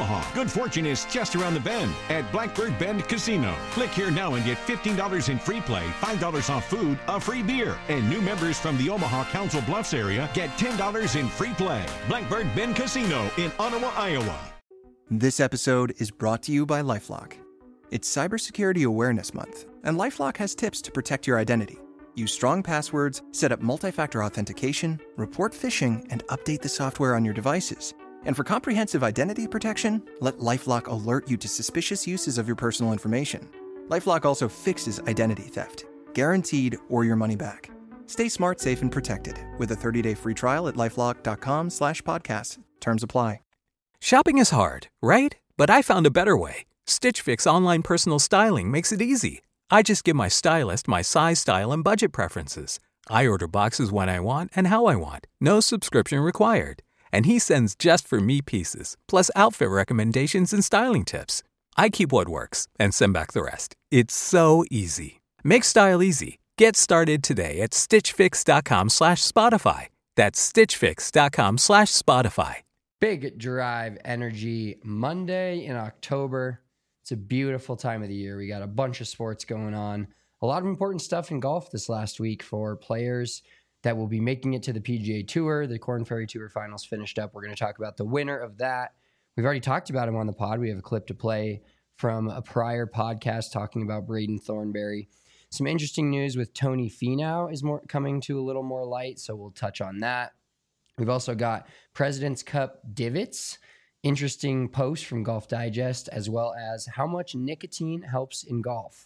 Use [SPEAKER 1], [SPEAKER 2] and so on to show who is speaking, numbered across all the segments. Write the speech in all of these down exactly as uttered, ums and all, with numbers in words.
[SPEAKER 1] Omaha. Good fortune is just around the bend at Blackbird Bend Casino. Click here now and get fifteen dollars in free play, five dollars off food, a free beer. And new members from the Omaha Council Bluffs area get ten dollars in free play. Blackbird Bend Casino in Ottawa, Iowa.
[SPEAKER 2] This episode is brought to you by LifeLock. It's Cybersecurity Awareness Month, and LifeLock has tips to protect your identity. Use strong passwords, set up multi-factor authentication, report phishing, and update the software on your devices. And for comprehensive identity protection, let LifeLock alert you to suspicious uses of your personal information. LifeLock also fixes identity theft, guaranteed or your money back. Stay smart, safe, and protected with a thirty-day free trial at LifeLock.com slash podcast. Terms apply.
[SPEAKER 3] Shopping is hard, right? But I found a better way. Stitch Fix online personal styling makes it easy. I just give my stylist my size, style, and budget preferences. I order boxes when I want and how I want. No subscription required. And he sends just for me pieces, plus outfit recommendations and styling tips. I keep what works and send back the rest. It's so easy. Make style easy. Get started today at stitchfix.com slash Spotify. That's stitchfix.com slash Spotify.
[SPEAKER 4] Big Drive Energy Monday in October. It's a beautiful time of the year. We got a bunch of sports going on. A lot of important stuff in golf this last week for players that will be making it to the P G A Tour. The Korn Ferry Tour Finals finished up. We're going to talk about the winner of that. We've already talked about him on the pod. We have a clip to play from a prior podcast talking about Braden Thornberry. Some interesting news with Tony Finau is more coming to a little more light, so we'll touch on that. We've also got President's Cup divots, interesting post from Golf Digest, as well as how much nicotine helps in golf.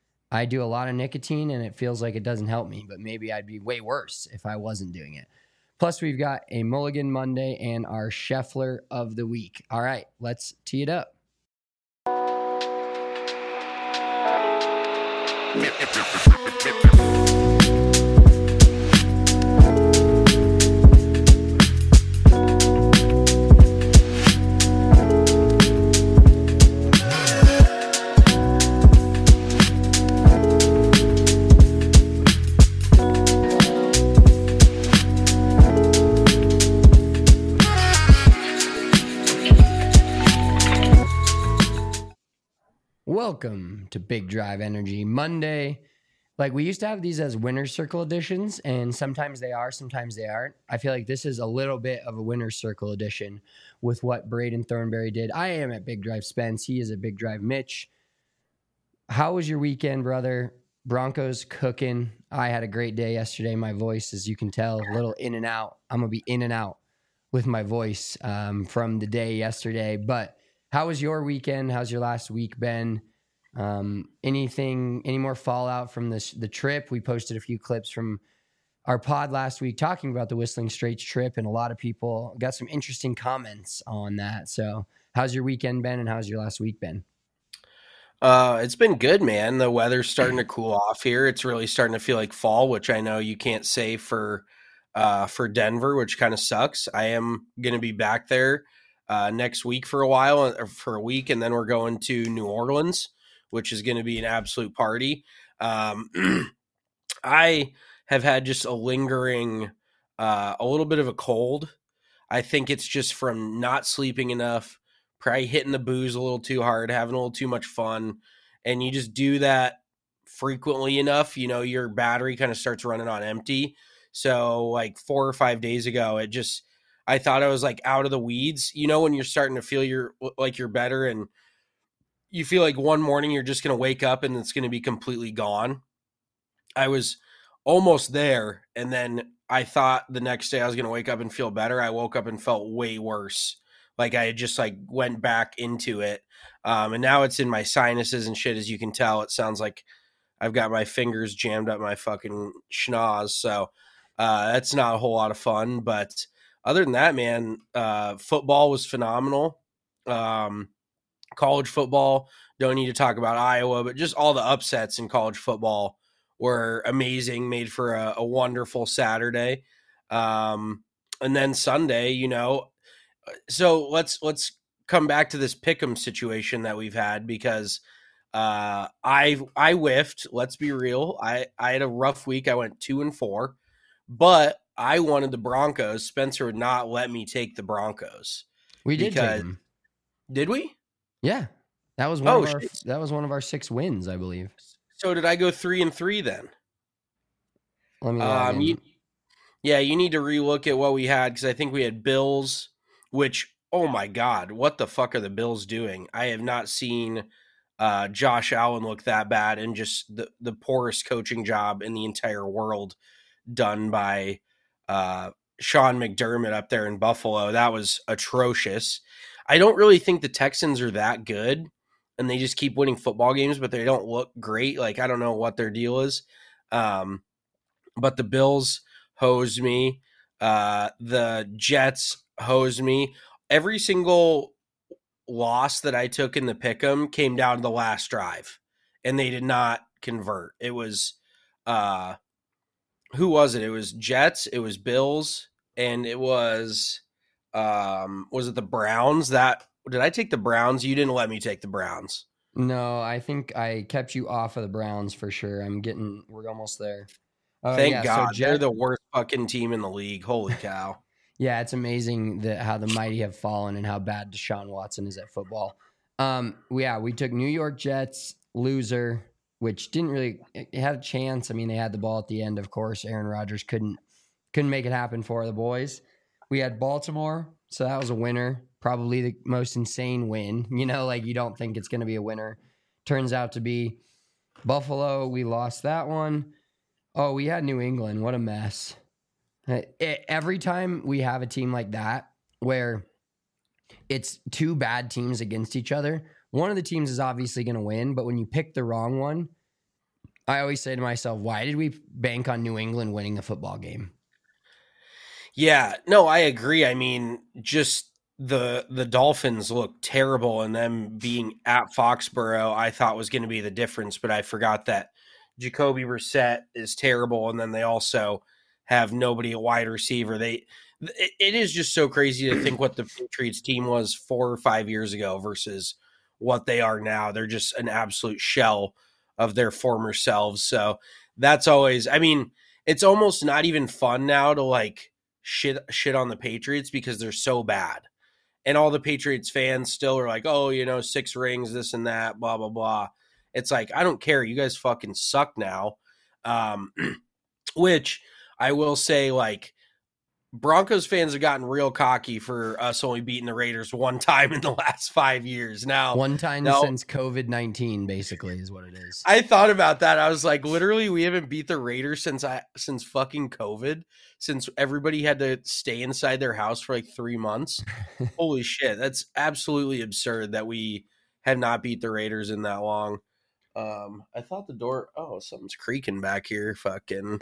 [SPEAKER 4] I do a lot of nicotine and it feels like it doesn't help me, but maybe I'd be way worse if I wasn't doing it. Plus, we've got a Mulligan Monday and our Scheffler of the week. All right, let's tee it up. Welcome to Big Drive Energy Monday. Like, we used to have these as winner's circle editions, and sometimes they are, sometimes they aren't. I feel like this is a little bit of a winner's circle edition with what Braden Thornberry did. I am at Big Drive Spence. He is at Big Drive Mitch. How was your weekend, brother? Broncos cooking. I had a great day yesterday. My voice, as you can tell, a little in and out. I'm going to be in and out with my voice um, from the day yesterday. But how was your weekend? How's your last week been? Um, anything, any more fallout from this, the trip? We posted a few clips from our pod last week talking about the Whistling Straits trip, and a lot of people got some interesting comments on that. So how's your weekend been, and how's your last week been?
[SPEAKER 5] Uh, it's been good, man. The weather's starting to cool off here. It's really starting to feel like fall, which I know you can't say for, uh, for Denver, which kind of sucks. I am going to be back there, uh, next week for a while, or for a week. And then we're going to New Orleans, which is going to be an absolute party. Um, I have had just a lingering, uh, a little bit of a cold. I think it's just from not sleeping enough, probably hitting the booze a little too hard, having a little too much fun. And you just do that frequently enough, you know, your battery kind of starts running on empty. So like four or five days ago, it just, I thought I was like out of the weeds, you know, when you're starting to feel you're like you're better, and you feel like one morning you're just going to wake up and it's going to be completely gone. I was almost there. And then I thought the next day I was going to wake up and feel better. I woke up and felt way worse. Like I just like went back into it. Um, and now it's in my sinuses and shit. As you can tell, it sounds like I've got my fingers jammed up my fucking schnoz. So uh, that's not a whole lot of fun. But other than that, man, uh, football was phenomenal. Um, College football, don't need to talk about Iowa, but just all the upsets in college football were amazing, made for a, a wonderful Saturday. Um, and then Sunday, you know, so let's let's come back to this pick'em situation that we've had, because uh, I I whiffed. Let's be real. I, I had a rough week. I went two and four, but I wanted the Broncos. Spencer would not let me take the Broncos.
[SPEAKER 4] We did take them.
[SPEAKER 5] Did we?
[SPEAKER 4] Yeah, that was one
[SPEAKER 5] Oh,
[SPEAKER 4] of our
[SPEAKER 5] shit.
[SPEAKER 4] that was one of our six wins, I believe.
[SPEAKER 5] So did I go three and three then?
[SPEAKER 4] Let me log
[SPEAKER 5] Um,
[SPEAKER 4] in.
[SPEAKER 5] you, yeah, you need to relook at what we had because I think we had Bills, which, oh my God, what the fuck are the Bills doing? I have not seen uh, Josh Allen look that bad, and just the, the poorest coaching job in the entire world done by uh, Sean McDermott up there in Buffalo. That was atrocious. I don't really think the Texans are that good, and they just keep winning football games, but they don't look great. Like, I don't know what their deal is. Um, but the Bills hosed me. Uh, the Jets hosed me. Every single loss that I took in the pick'em came down to the last drive, and they did not convert. It was, uh, who was it? It was Jets, it was Bills, and it was, um, was it the Browns? That did I take the Browns? You didn't let me take the Browns.
[SPEAKER 4] No, I think I kept you off of the Browns for sure. I'm getting, we're almost there. Uh,
[SPEAKER 5] Thank
[SPEAKER 4] yeah,
[SPEAKER 5] God.
[SPEAKER 4] so Jet,
[SPEAKER 5] They're the worst fucking team in the league. Holy cow.
[SPEAKER 4] Yeah, it's amazing that how the mighty have fallen and how bad Deshaun Watson is at football. Um, yeah, we took New York Jets, loser, which didn't really it had a chance. I mean, they had the ball at the end, of course. Aaron Rodgers couldn't couldn't make it happen for the boys. We had Baltimore, so that was a winner. Probably the most insane win. You know, like you don't think it's going to be a winner. Turns out to be Buffalo. We lost that one. Oh, we had New England. What a mess. It, every time we have a team like that where it's two bad teams against each other, one of the teams is obviously going to win, but when you pick the wrong one, I always say to myself, why did we bank on New England winning the football game?
[SPEAKER 5] Yeah, no, I agree. I mean, just the the Dolphins look terrible, and them being at Foxborough, I thought was going to be the difference, but I forgot that Jacoby Brissett is terrible, and then they also have nobody at wide receiver. They it, it is just so crazy to think what the Patriots team was four or five years ago versus what they are now. They're just an absolute shell of their former selves. So that's always, I mean, it's almost not even fun now to like shit shit on the Patriots because they're so bad. And all the Patriots fans still are like, oh, you know, six rings, this and that, blah, blah, blah. It's like, I don't care. You guys fucking suck now. Um, which I will say, like, Broncos fans have gotten real cocky for us only beating the Raiders one time in the last five years. Now,
[SPEAKER 4] one time
[SPEAKER 5] now,
[SPEAKER 4] since COVID nineteen, basically, is what it is.
[SPEAKER 5] I thought about that. I was like, literally, we haven't beat the Raiders since I since fucking COVID, since everybody had to stay inside their house for like three months. Holy shit, that's absolutely absurd that we have not beat the Raiders in that long. Um, I thought the door. Oh, something's creaking back here. Fucking.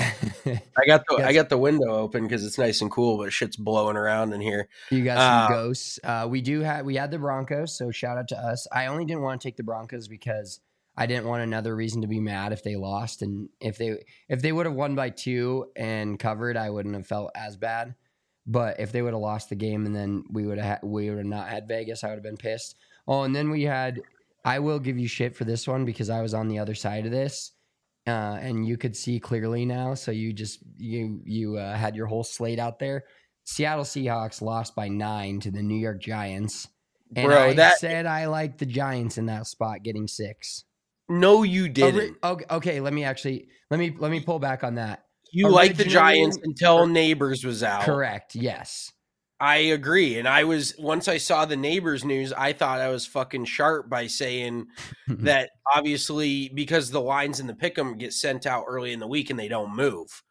[SPEAKER 5] I got the I got the window open because it's nice and cool, but shit's blowing around in here.
[SPEAKER 4] You got some
[SPEAKER 5] Uh,
[SPEAKER 4] ghosts. Uh, we do have we had the Broncos, so shout out to us. I only didn't want to take the Broncos because I didn't want another reason to be mad if they lost, and if they if they would have won by two and covered, I wouldn't have felt as bad. But if they would have lost the game and then we would have ha- we would have not had Vegas, I would have been pissed. Oh, and then we had. I will give you shit for this one because I was on the other side of this, uh, and you could see clearly now. So you just you you uh, had your whole slate out there. Seattle Seahawks lost by nine to the New York Giants, and
[SPEAKER 5] Bro,
[SPEAKER 4] I
[SPEAKER 5] that-
[SPEAKER 4] said I liked the Giants in that spot getting six.
[SPEAKER 5] No, you didn't.
[SPEAKER 4] Okay, okay, let me actually let me let me pull back on that.
[SPEAKER 5] You liked the
[SPEAKER 4] Originally-
[SPEAKER 5] Giants until Neighbors was out.
[SPEAKER 4] Correct. Yes.
[SPEAKER 5] I agree. And I was, once I saw the Neighbors news, I thought I was fucking sharp by saying that obviously because the lines in the pick'em get sent out early in the week and they don't move.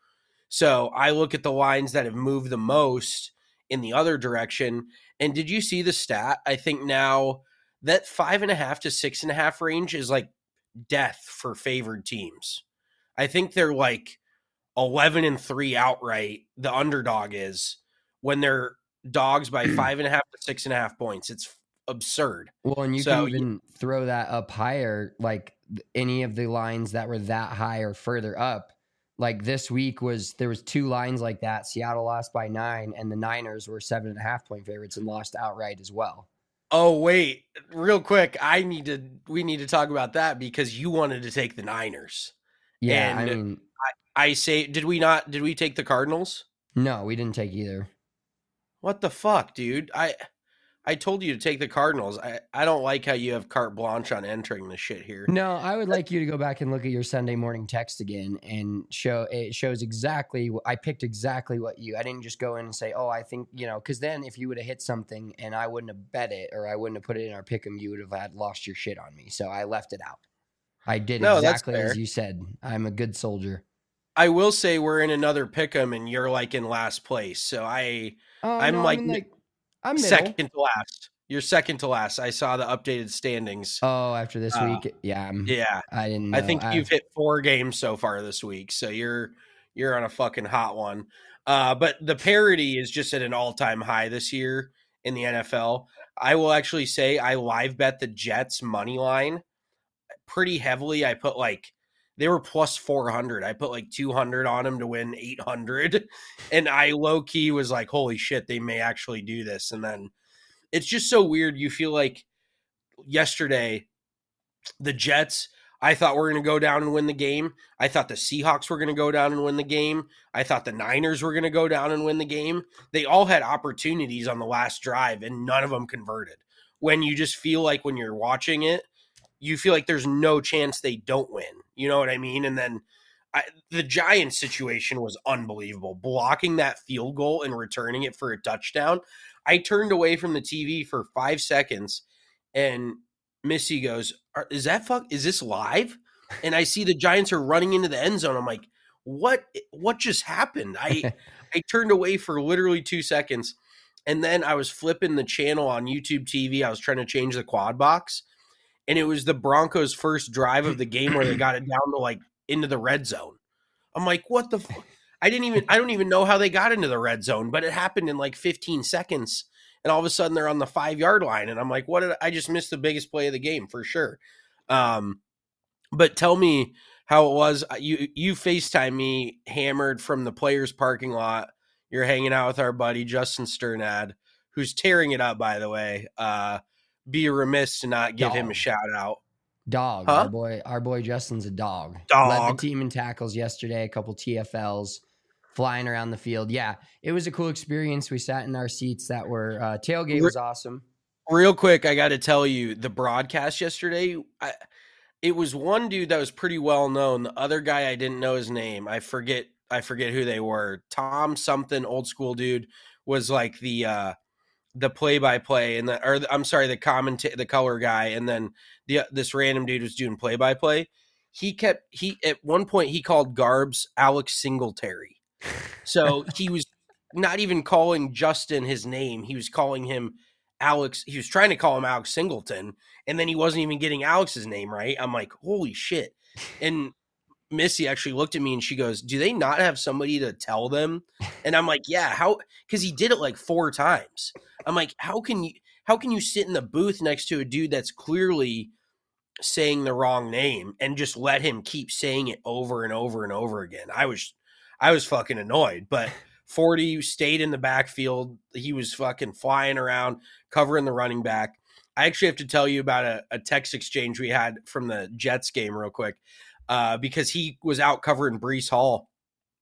[SPEAKER 5] So I look at the lines that have moved the most in the other direction. And did you see the stat? I think now that five and a half to six and a half range is like death for favored teams. I think they're like eleven and three outright. The underdog is when they're dogs by five and a half to six and a half points. It's absurd.
[SPEAKER 4] Well, and you
[SPEAKER 5] So,
[SPEAKER 4] can even throw that up higher, like th- any of the lines that were that high or further up. Like this week was there was two lines like that. Seattle lost by nine, and the Niners were seven and a half point favorites and lost outright as well.
[SPEAKER 5] Oh, wait, real quick. I need to, we need to talk about that because you wanted to take the Niners.
[SPEAKER 4] Yeah, I
[SPEAKER 5] And
[SPEAKER 4] mean,
[SPEAKER 5] I say, did we not, did we take the Cardinals?
[SPEAKER 4] no, we didn't take either.
[SPEAKER 5] What the fuck, dude? I, I told you to take the Cardinals. I, I don't like how you have carte blanche on entering the shit here.
[SPEAKER 4] No, I would like you to go back and look at your Sunday morning text again and show it shows exactly. I picked exactly what you. I didn't just go in and say, "Oh, I think you know," because then if you would have hit something and I wouldn't have bet it or I wouldn't have put it in our pick'em, you would have had lost your shit on me. So I left it out. I did
[SPEAKER 5] No,
[SPEAKER 4] exactly
[SPEAKER 5] that's fair.
[SPEAKER 4] as you said. I'm a good soldier.
[SPEAKER 5] I will say we're in another pick'em and you're like in last place. So I,
[SPEAKER 4] Oh,
[SPEAKER 5] I'm
[SPEAKER 4] no,
[SPEAKER 5] like,
[SPEAKER 4] I'm in, like I'm middle.
[SPEAKER 5] second to last. You're second to last. I saw the updated standings.
[SPEAKER 4] Oh, after this
[SPEAKER 5] Uh,
[SPEAKER 4] week, yeah, I'm,
[SPEAKER 5] Yeah,
[SPEAKER 4] I didn't. Know.
[SPEAKER 5] I think
[SPEAKER 4] I,
[SPEAKER 5] you've hit four games so far this week, so you're you're on a fucking hot one. Uh, but the parity is just at an all time high this year in the N F L. I will actually say I live bet the Jets money line pretty heavily. I put like they were plus four hundred. I put like two hundred on them to win eight hundred, and I low key was like, holy shit, they may actually do this. And then it's just so weird. You feel like yesterday, the Jets, I thought were going to go down and win the game. I thought the Seahawks were going to go down and win the game. I thought the Niners were going to go down and win the game. They all had opportunities on the last drive, and none of them converted. When you just feel like when you're watching it, you feel like there's no chance they don't win. You know what I mean? And then I, the Giants situation was unbelievable. Blocking that field goal and returning it for a touchdown. I turned away from the T V for five seconds, and Missy goes, is that fuck? Is this live? And I see the Giants are running into the end zone. I'm like, what? What just happened? I I turned away for literally two seconds, and then I was flipping the channel on YouTube T V. I was trying to change the quad box, and it was the Broncos' first drive of the game where they got it down to like into the red zone. I'm like, what the fuck? I didn't even, I don't even know how they got into the red zone, but it happened in like fifteen seconds. And all of a sudden they're on the five yard line. And I'm like, what did I, I just missed the biggest play of the game for sure. Um, but tell me how it was. You, you FaceTime me hammered from the players parking lot. You're hanging out with our buddy, Justin Sternad, who's tearing it up, by the way. Uh, be remiss to not give
[SPEAKER 4] Dog.
[SPEAKER 5] him a shout out.
[SPEAKER 4] Dog,
[SPEAKER 5] Huh?
[SPEAKER 4] our boy, our boy Justin's a dog.
[SPEAKER 5] Dog.
[SPEAKER 4] Led the team in tackles yesterday, a couple T F Ls, flying around the field. Yeah, it was a cool experience. We sat in our seats that were uh, tailgate was awesome.
[SPEAKER 5] Real quick, I got to tell you, the broadcast yesterday, I, it was one dude that was pretty well known. The other guy, I didn't know his name. I forget. I forget who they were. Tom something, old school dude, was like the uh, the play by play, and the or the, I'm sorry, the commenta- the color guy, and then the this random dude was doing play by play. He kept he at one point he called Garbs Alex Singletary. So he was not even calling Justin his name. He was calling him Alex. He was trying to call him Alex Singleton, and then he wasn't even getting Alex's name right. I'm like, holy shit. And Missy actually looked at me and she goes, do they not have somebody to tell them? And I'm like, yeah, how? Because he did it like four times. I'm like, how can you, how can you sit in the booth next to a dude that's clearly saying the wrong name and just let him keep saying it over and over and over again? I was, I was fucking annoyed, but forty stayed in the backfield. He was fucking flying around, covering the running back. I actually have to tell you about a, a text exchange we had from the Jets game real quick, uh, because he was out covering Breece Hall.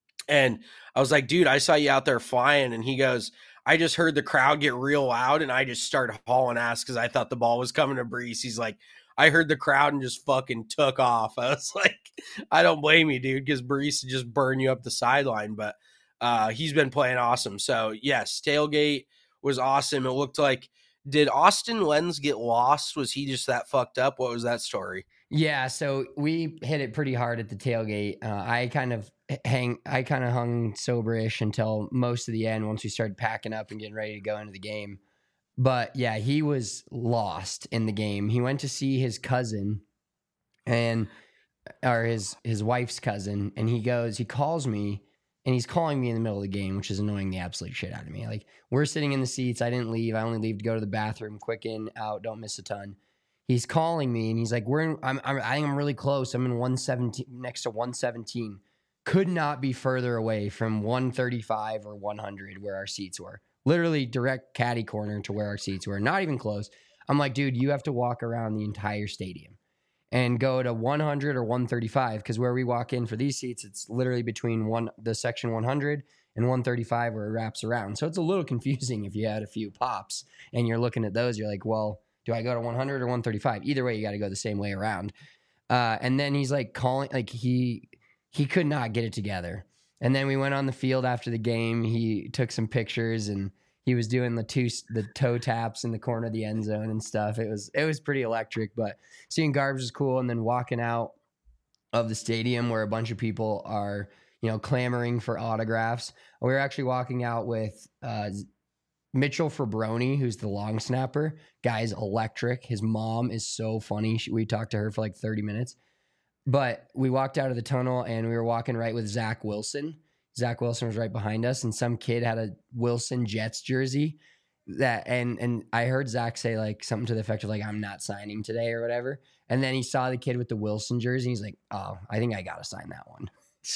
[SPEAKER 5] And I was like, dude, I saw you out there flying. And he goes, I just heard the crowd get real loud and I just started hauling ass because I thought the ball was coming to Breece. He's like, I heard the crowd and just fucking took off. I was like, I don't blame you, dude, because Breece would just burn you up the sideline. But uh, he's been playing awesome. So, yes, tailgate was awesome. It looked like, did Austin Lenz get lost? Was he just that fucked up? What was that story?
[SPEAKER 4] Yeah, so we hit it pretty hard at the tailgate. Uh, I kind of hang, I kind of hung soberish until most of the end once we started packing up and getting ready to go into the game. But yeah, he was lost in the game. He went to see his cousin and or his his wife's cousin, and he goes, he calls me, and he's calling me in the middle of the game, which is annoying the absolute shit out of me. Like, we're sitting in the seats. I didn't leave. I only leave to go to the bathroom, quick in, out, don't miss a ton. He's calling me, and he's like, "We're in, I'm, I'm I think I'm really close. I'm in one seventeen, next to one seventeen. Could not be further away from one thirty-five or one hundred where our seats were. Literally direct caddy corner to where our seats were. Not even close. I'm like, dude, you have to walk around the entire stadium and go to one hundred or one thirty-five, because where we walk in for these seats, it's literally between one the section one hundred and one thirty-five where it wraps around. So it's a little confusing if you had a few pops and you're looking at those. You're like, well, do I go to one hundred or one thirty-five? Either way, you got to go the same way around. Uh, and then he's like calling, like he he could not get it together. And then we went on the field after the game. He took some pictures and he was doing the two the toe taps in the corner of the end zone and stuff. It was it was pretty electric. But seeing Garbs was cool, and then walking out of the stadium where a bunch of people are, you know, clamoring for autographs. We were actually walking out with uh, Mitchell Fabroni, who's the long snapper. Guy's electric. His mom is so funny. She, we talked to her for like thirty minutes. But we walked out of the tunnel and we were walking right with Zach Wilson. Zach Wilson was right behind us, and some kid had a Wilson Jets jersey that, and and I heard Zach say like something to the effect of like, I'm not signing today or whatever. And then he saw the kid with the Wilson jersey. He's like, oh, I think I got to sign that one.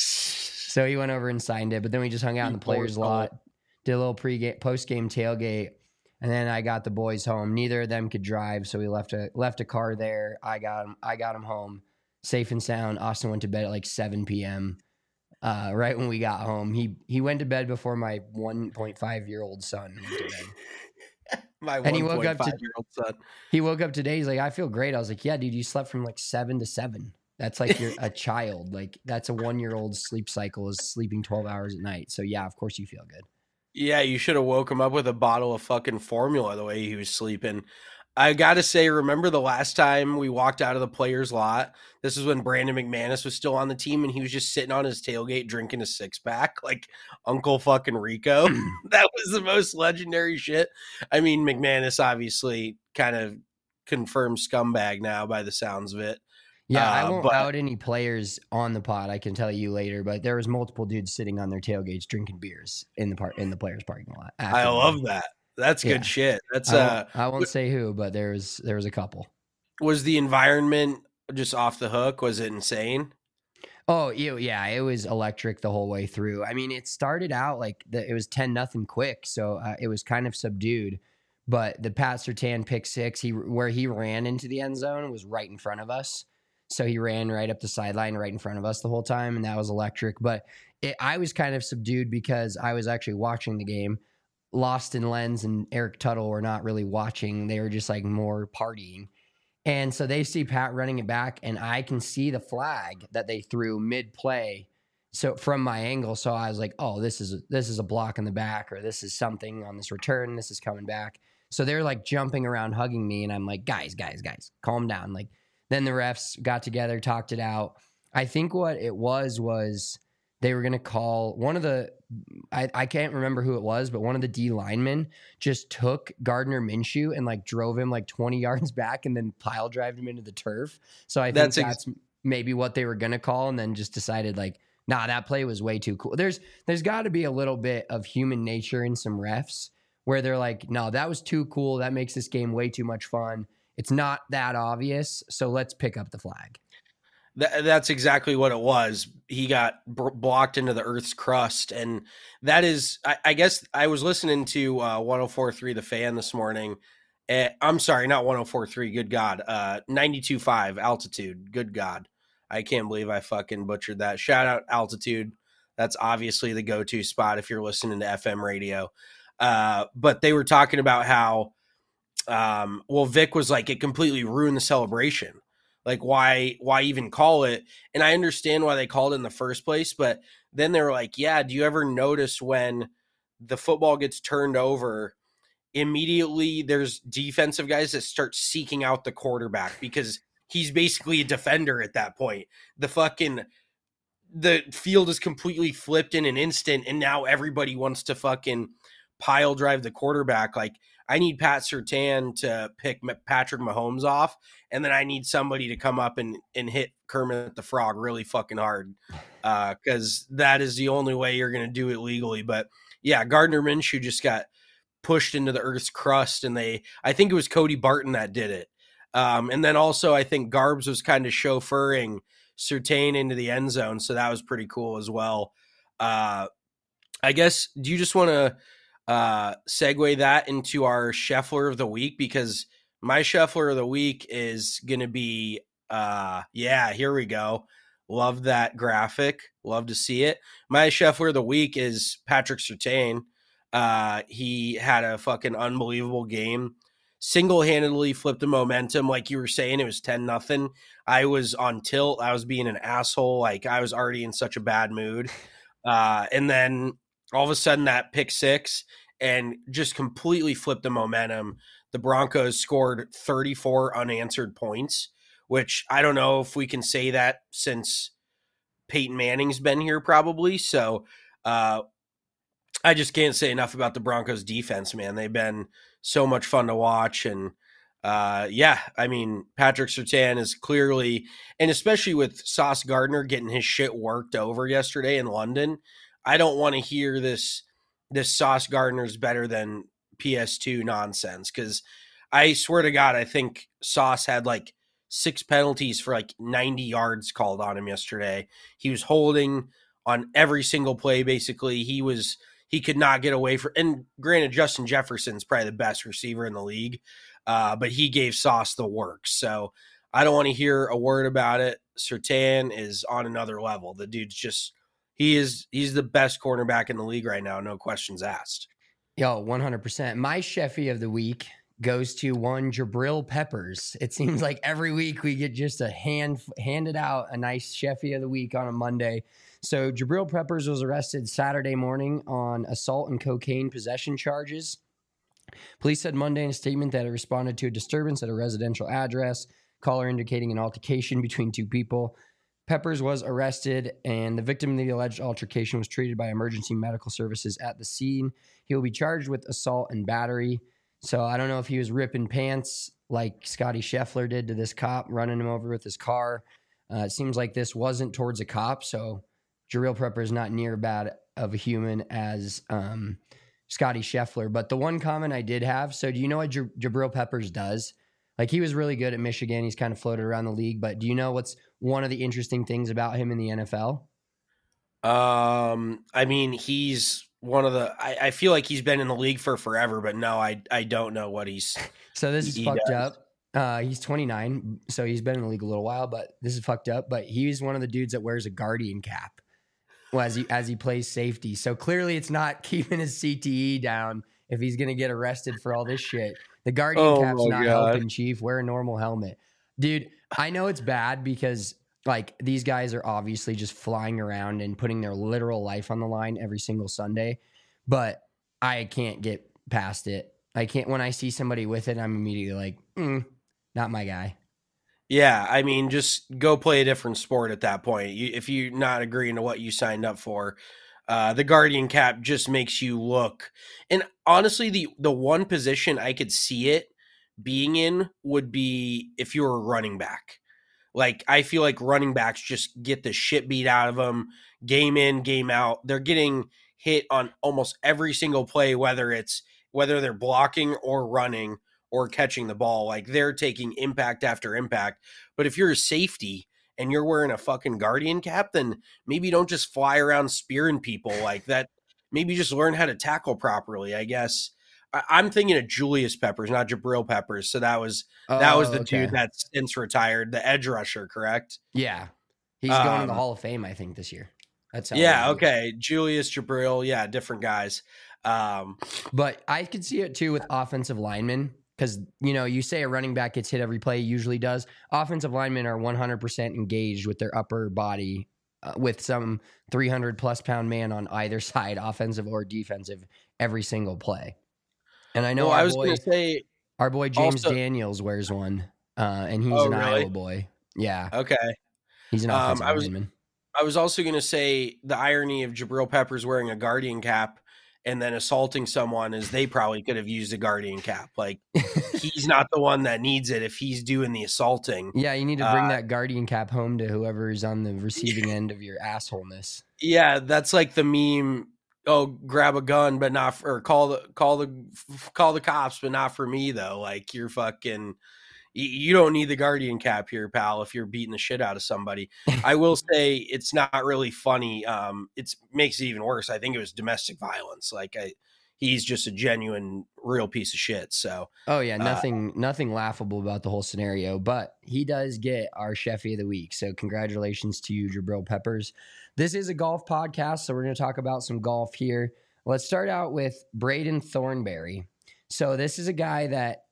[SPEAKER 4] So he went over and signed it. But then we just hung out in the players' lot, did a little pre-game, post-game tailgate, and then I got the boys home. Neither of them could drive, so we left a left a car there. I got him. I got him home, safe and sound. Austin went to bed at like seven p.m. Uh, right when we got home. He he went to bed before my one point five year old son went to bed.
[SPEAKER 5] My
[SPEAKER 4] and he woke up to,
[SPEAKER 5] year old son.
[SPEAKER 4] He woke up today. He's like, I feel great. I was like, yeah, dude, you slept from like seven to seven. That's like you're a child. Like that's a one year old sleep cycle is sleeping twelve hours at night. So yeah, of course you feel good.
[SPEAKER 5] Yeah, you should have woke him up with a bottle of fucking formula the way he was sleeping. I got to say, remember the last time we walked out of the players' lot? This is when Brandon McManus was still on the team, and he was just sitting on his tailgate drinking a six-pack like Uncle fucking Rico. That was the most legendary shit. I mean, McManus obviously kind of confirmed scumbag now by the sounds of it.
[SPEAKER 4] Yeah,
[SPEAKER 5] uh,
[SPEAKER 4] I won't
[SPEAKER 5] but,
[SPEAKER 4] out any players on the pod. I can tell you later, but there was multiple dudes sitting on their tailgates drinking beers in the part in the players' parking lot.
[SPEAKER 5] I love game. that. That's good yeah. shit. That's
[SPEAKER 4] I
[SPEAKER 5] uh
[SPEAKER 4] won't, I won't say who, but there was there was a couple.
[SPEAKER 5] Was the environment just off the hook? Was it insane?
[SPEAKER 4] Oh, yeah, it was electric the whole way through. I mean, it started out like the, it was ten nothing quick, so uh, it was kind of subdued. But the Pat Surtain pick six, he where he ran into the end zone was right in front of us. So he ran right up the sideline right in front of us the whole time, and that was electric. But it, I was kind of subdued because I was actually watching the game. Lost in Lenz and Eric Tuttle were not really watching. They were just like more partying. And so they see Pat running it back, and I can see the flag that they threw mid-play. So from my angle, so I was like, oh, this is a, this is a block in the back, or this is something on this return. This is coming back. So they're like jumping around, hugging me, and I'm like, guys, guys, guys, calm down. Like then the refs got together, talked it out. I think what it was was they were going to call one of the I, I can't remember who it was, but one of the D linemen just took Gardner Minshew and like drove him like twenty yards back and then pile drived him into the turf. So I think that's, that's ex- maybe what they were going to call, and then just decided like, nah, that play was way too cool. There's there's got to be a little bit of human nature in some refs where they're like, no, that was too cool. That makes this game way too much fun. It's not that obvious, so let's pick up the flag.
[SPEAKER 5] That, that's exactly what it was. He got b- blocked into the Earth's crust. And that is, I, I guess I was listening to uh, one oh four point three The Fan this morning. Uh, I'm sorry, not one oh four point three. Good God. Uh, ninety-two point five Altitude. Good God. I can't believe I fucking butchered that. Shout out Altitude. That's obviously the go-to spot if you're listening to F M radio. Uh, but they were talking about how, um, well, Vic was like, it completely ruined the celebration. Like, why why even call it? And I understand why they called it in the first place, but then they were like, yeah, do you ever notice when the football gets turned over, immediately there's defensive guys that start seeking out the quarterback because he's basically a defender at that point. The fucking, the field is completely flipped in an instant, and now everybody wants to fucking pile drive the quarterback. Like, I need Pat Surtain to pick Patrick Mahomes off, and then I need somebody to come up and, and hit Kermit the Frog really fucking hard because uh, that is the only way you're going to do it legally. But, yeah, Gardner Minshew just got pushed into the Earth's crust, and they – I think it was Cody Barton that did it. Um, and then also I think Garbs was kind of chauffeuring Surtain into the end zone, so that was pretty cool as well. Uh, I guess – do you just want to – uh segue that into our Scheffler of the week, because my Scheffler of the week is gonna be uh yeah here we go Love that graphic. Love to see it. My Scheffler of the week is Patrick Surtain. Uh, he had a fucking unbelievable game. Single-handedly flipped the momentum. Like you were saying, it was ten nothing. I was on tilt. I was being an asshole. Like I was already in such a bad mood. Uh, and then all of a sudden that pick six and just completely flipped the momentum. The Broncos scored thirty-four unanswered points, which I don't know if we can say that since Peyton Manning's been here probably. So uh, I just can't say enough about the Broncos defense, man. They've been so much fun to watch. And uh, yeah, I mean, Patrick Surtain is clearly, and especially with Sauce Gardner getting his shit worked over yesterday in London, I don't want to hear this, this Sauce Gardner's better than P S two nonsense. Cause I swear to God, I think Sauce had like six penalties for like ninety yards called on him yesterday. He was holding on every single play. Basically he was, he could not get away from, and granted, Justin Jefferson's probably the best receiver in the league, uh, but he gave Sauce the work. So I don't want to hear a word about it. Surtain is on another level. The dude's just, he is, he's the best cornerback in the league right now. No questions asked.
[SPEAKER 4] Yo, one hundred percent. My Sheffy of the week goes to one Jabril Peppers. It seems like every week we get just a hand handed out a nice Sheffy of the week on a Monday. So Jabril Peppers was arrested Saturday morning on assault and cocaine possession charges. Police said Monday in a statement that it responded to a disturbance at a residential address, caller indicating an altercation between two people. Peppers was arrested, and the victim of the alleged altercation was treated by emergency medical services at the scene. He will be charged with assault and battery. So I don't know if he was ripping pants like Scotty Scheffler did to this cop, running him over with his car. Uh, it seems like this wasn't towards a cop, so Jabril Peppers is not near bad of a human as um, Scotty Scheffler. But the one comment I did have, so do you know what J- Jabril Peppers does? Like, he was really good at Michigan. He's kind of floated around the league. But do you know what's one of the interesting things about him in the N F L?
[SPEAKER 5] Um, I mean, he's one of the, I, I feel like he's been in the league for forever, but no, I, I don't know what he's.
[SPEAKER 4] So this is
[SPEAKER 5] he
[SPEAKER 4] fucked
[SPEAKER 5] does.
[SPEAKER 4] up. Uh, he's twenty-nine, so he's been in the league a little while, but this is fucked up. But he's one of the dudes that wears a Guardian cap. Well, as he as he plays safety. So clearly it's not keeping his C T E down if he's going to get arrested for all this shit. The Guardian
[SPEAKER 5] Oh
[SPEAKER 4] cap's
[SPEAKER 5] my
[SPEAKER 4] not
[SPEAKER 5] God.
[SPEAKER 4] helping, Chief. Wear a normal helmet. Dude, I know it's bad because, like, these guys are obviously just flying around and putting their literal life on the line every single Sunday, but I can't get past it. I can't, when I see somebody with it, I'm immediately like, mm, not my guy.
[SPEAKER 5] Yeah, I mean, just go play a different sport at that point. You, if you're not agreeing to what you signed up for, uh, the Guardian cap just makes you look. And honestly, the the one position I could see it being in would be if you were a running back. Like, I feel like running backs just get the shit beat out of them, game in, game out. They're getting hit on almost every single play, whether it's whether they're blocking or running or catching the ball. Like, they're taking impact after impact. But if you're a safety and you're wearing a fucking Guardian cap, then maybe don't just fly around spearing people like that. Maybe just learn how to tackle properly, I guess. I- I'm thinking of Julius Peppers, not Jabril Peppers. So that was that
[SPEAKER 4] Oh,
[SPEAKER 5] was the
[SPEAKER 4] okay.
[SPEAKER 5] dude that's since retired, the edge rusher, correct?
[SPEAKER 4] Yeah. He's going to the
[SPEAKER 5] Um,
[SPEAKER 4] Hall of Fame, I think, this year. That's how
[SPEAKER 5] Yeah,
[SPEAKER 4] it is.
[SPEAKER 5] okay. Julius, Jabril, yeah, different guys. Um,
[SPEAKER 4] But I could see it too with offensive linemen because, you know, you say a running back gets hit every play, usually does. Offensive linemen are one hundred percent engaged with their upper body uh, with some three hundred plus pound man on either side, offensive or defensive, every single play. And I know
[SPEAKER 5] well,
[SPEAKER 4] our,
[SPEAKER 5] I was
[SPEAKER 4] boy,
[SPEAKER 5] going to say,
[SPEAKER 4] our boy James
[SPEAKER 5] also-
[SPEAKER 4] Daniels wears one, uh, and he's
[SPEAKER 5] Oh,
[SPEAKER 4] an
[SPEAKER 5] really?
[SPEAKER 4] Iowa boy. Yeah,
[SPEAKER 5] okay.
[SPEAKER 4] he's an
[SPEAKER 5] Um,
[SPEAKER 4] offensive
[SPEAKER 5] I was-
[SPEAKER 4] lineman.
[SPEAKER 5] I was also going to say the irony of Jabril Peppers wearing a Guardian cap and then assaulting someone is they probably could have used a Guardian cap. Like, he's not the one that needs it if he's doing the assaulting.
[SPEAKER 4] Yeah, you need to bring
[SPEAKER 5] uh,
[SPEAKER 4] that Guardian cap home to whoever is on the receiving end of your assholeness.
[SPEAKER 5] Yeah, that's like the meme. Oh, grab a gun, but not for, or call the call the call the cops, but not for me though. Like, you're fucking. You don't need the Guardian cap here, pal, if you're beating the shit out of somebody. I will say it's not really funny. Um, it makes it even worse. I think it was domestic violence. Like, I, he's just a genuine, real piece of shit. So,
[SPEAKER 4] oh yeah,
[SPEAKER 5] uh,
[SPEAKER 4] nothing, nothing laughable about the whole scenario. But he does get our Sheffy of the week. So congratulations to you, Jabril Peppers. This is a golf podcast, so we're going to talk about some golf here. Let's start out with Braden Thornberry. So this is a guy that,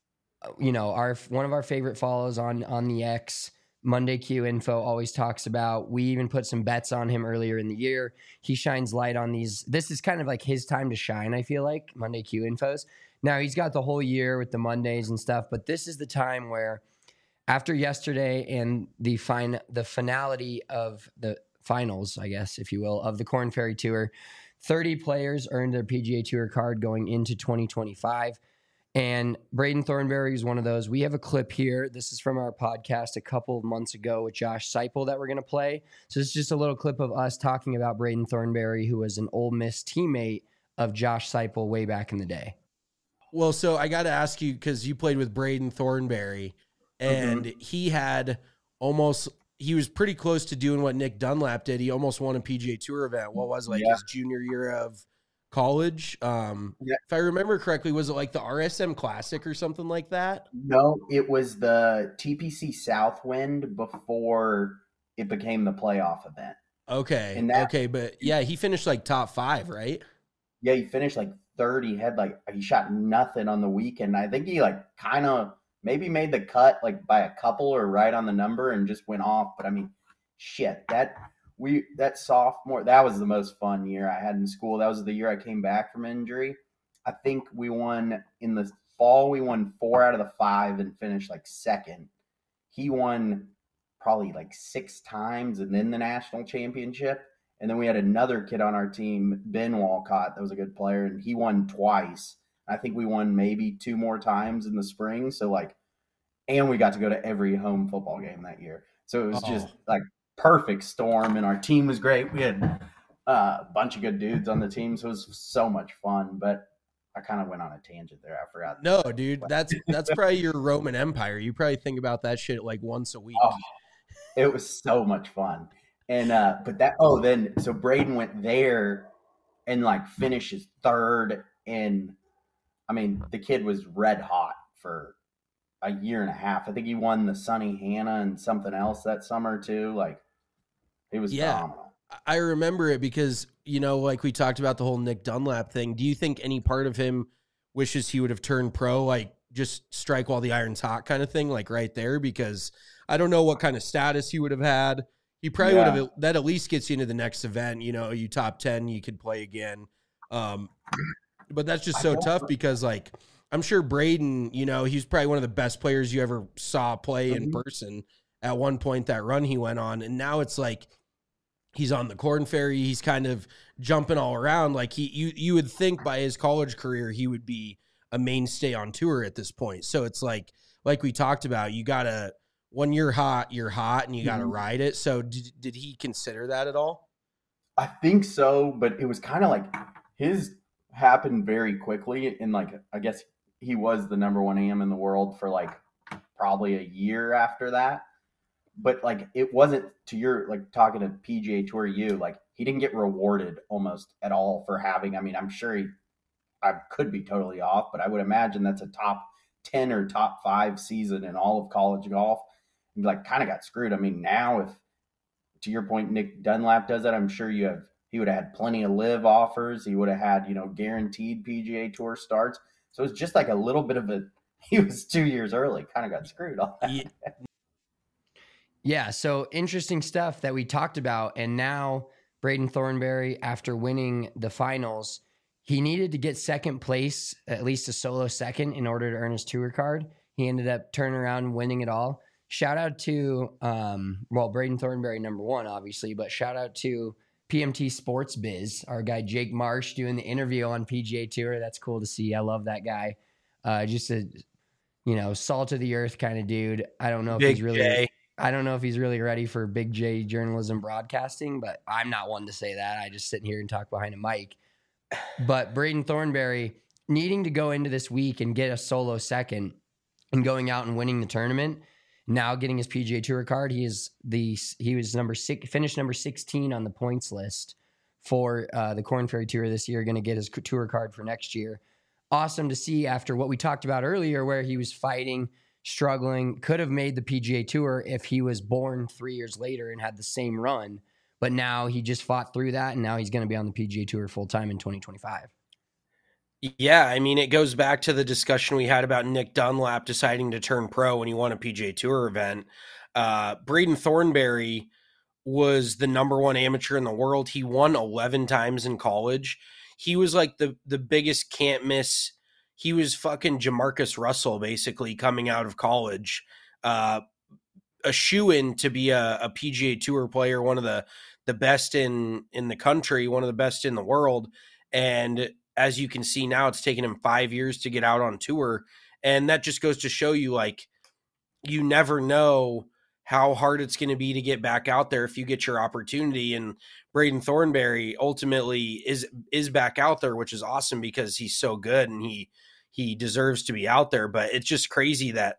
[SPEAKER 4] you know, our one of our favorite follows on on the X. Monday Q Info always talks about. We even put some bets on him earlier in the year. He shines light on these. This is kind of like his time to shine, I feel like, Monday Q Infos. Now, he's got the whole year with the Mondays and stuff, but this is the time where after yesterday and the fin- the finality of the finals, I guess, if you will, of the Korn Ferry Tour, thirty players earned their P G A Tour card going into twenty twenty-five. And Braden Thornberry is one of those. We have a clip here. This is from our podcast a couple of months ago with Josh Seipel that we're going to play. So it's just a little clip of us talking about Braden Thornberry, who was an Ole Miss teammate of Josh Seipel way back in the day.
[SPEAKER 6] Well, so I got to ask you, because you played with Braden Thornberry, and mm-hmm. he had almost, he was pretty close to doing what Nick Dunlap did. He almost won a P G A Tour event. What was it, like yeah. his junior year of college? Um, yeah. If I remember correctly, was it like the R S M Classic or something like that?
[SPEAKER 7] No, it was the T P C Southwind before it became the playoff event.
[SPEAKER 6] Okay. And that, okay. But yeah, he finished like top five, right?
[SPEAKER 7] Yeah. He finished like third. He had like, he shot nothing on the weekend. I think he like kind of maybe made the cut like by a couple or right on the number and just went off. But I mean, shit, that, We that sophomore, that was the most fun year I had in school. That was the year I came back from injury. I think we won in the fall. We won four out of the five and finished like second. He won probably like six times and then the national championship. And then we had another kid on our team, Ben Walcott, that was a good player, and he won twice. I think we won maybe two more times in the spring. So like, and we got to go to every home football game that year. So it was oh. just like perfect storm, and our team was great. We had uh, a bunch of good dudes on the team, so it was so much fun. But I kind of went on a tangent there. I forgot.
[SPEAKER 6] No, dude, that's that's probably your Roman Empire. You probably think about that shit like once a week.
[SPEAKER 7] Oh, it was so much fun. And uh, but that oh then so Braden went there and like finishes third, and I mean the kid was red hot for a year and a half. I think he won the Sonny Hannah and something else that summer too. Like, it was yeah, phenomenal.
[SPEAKER 6] I remember it because, you know, like we talked about the whole Nick Dunlap thing. Do you think any part of him wishes he would have turned pro, like just strike while the iron's hot kind of thing, like right there? Because I don't know what kind of status he would have had. He probably yeah. would have, that at least gets you into the next event. You know, you top ten, you could play again. Um, but that's just so tough because like, I'm sure Braden, you know, he's probably one of the best players you ever saw play in mm-hmm. person at one point, that run he went on. And now it's like he's on the Korn Ferry. He's kind of jumping all around. Like he, you, you would think by his college career, he would be a mainstay on tour at this point. So it's like, like we talked about, you gotta, when you're hot, you're hot and you gotta mm-hmm. ride it. So did, did he consider that at all?
[SPEAKER 7] I think so, but it was kind of like his happened very quickly. And like, I guess he was the number one A M in the world for like probably a year after that. But like, it wasn't to your, like talking to P G A Tour U, like he didn't get rewarded almost at all for having, I mean, I'm sure he, I could be totally off, but I would imagine that's a top ten or top five season in all of college golf. And like kind of got screwed. I mean, now if, to your point, Nick Dunlap does that, I'm sure you have, he would have had plenty of live offers. He would have had, you know, guaranteed P G A Tour starts. So it's just like a little bit of a, he was two years early, kind of got screwed on that.
[SPEAKER 4] Yeah. yeah. So interesting stuff that we talked about. And now Braden Thornberry, after winning the finals, he needed to get second place, at least a solo second, in order to earn his tour card. He ended up turning around and winning it all. Shout out to, um, well, Braden Thornberry, number one, obviously, but shout out to P M T Sports Biz, our guy Jake Marsh doing the interview on P G A Tour. That's cool to see. I love that guy. Uh, just a, you know, salt of the earth kind of dude. I don't know if
[SPEAKER 5] Big
[SPEAKER 4] he's really,
[SPEAKER 5] J.
[SPEAKER 4] I don't know if he's really ready for Big J journalism broadcasting, but I'm not one to say that. I just sit here and talk behind a mic. But Braden Thornberry needing to go into this week and get a solo second and going out and winning the tournament. Now getting his P G A Tour card, he is the he was number six, finished number sixteen on the points list for uh, the Korn Ferry Tour this year, going to get his tour card for next year. Awesome to see after what we talked about earlier, where he was fighting, struggling, could have made the P G A Tour if he was born three years later and had the same run. But now he just fought through that, and now he's going to be on the P G A Tour full time in twenty twenty-five.
[SPEAKER 5] Yeah, I mean, it goes back to the discussion we had about Nick Dunlap deciding to turn pro when he won a P G A Tour event. Uh, Braden Thornberry was the number one amateur in the world. He won eleven times in college. He was like the, the biggest can't miss. He was fucking Jamarcus Russell, basically, coming out of college. Uh, a shoo-in to be a, a P G A Tour player, one of the, the best in, in the country, one of the best in the world. And as you can see now, it's taken him five years to get out on tour. And that just goes to show you, like, you never know how hard it's going to be to get back out there if you get your opportunity. And Braden Thornberry ultimately is, is back out there, which is awesome because he's so good and he, he deserves to be out there. But it's just crazy that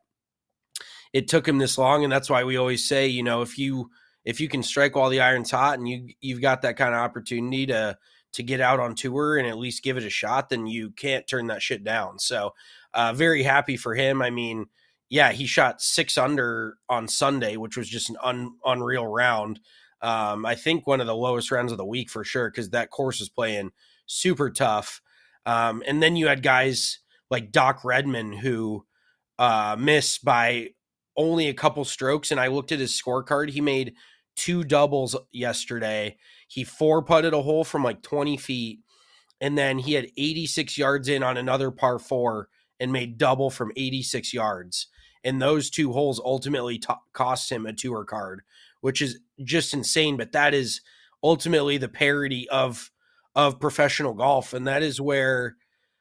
[SPEAKER 5] it took him this long. And that's why we always say, you know, if you, if you can strike while the iron's hot and you, you've got that kind of opportunity to, to get out on tour and at least give it a shot, then you can't turn that shit down. So uh, very happy for him. I mean, yeah, he shot six under on Sunday, which was just an un, unreal round. Um, I think one of the lowest rounds of the week for sure, because that course is playing super tough. Um, and then you had guys like Doc Redman who uh, missed by only a couple strokes. And I looked at his scorecard. He made two doubles yesterday. He four putted a hole from like twenty feet. And then he had eighty-six yards in on another par four and made double from eighty-six yards. And those two holes ultimately t- cost him a tour card, which is just insane. But that is ultimately the parity of, of professional golf. And that is where,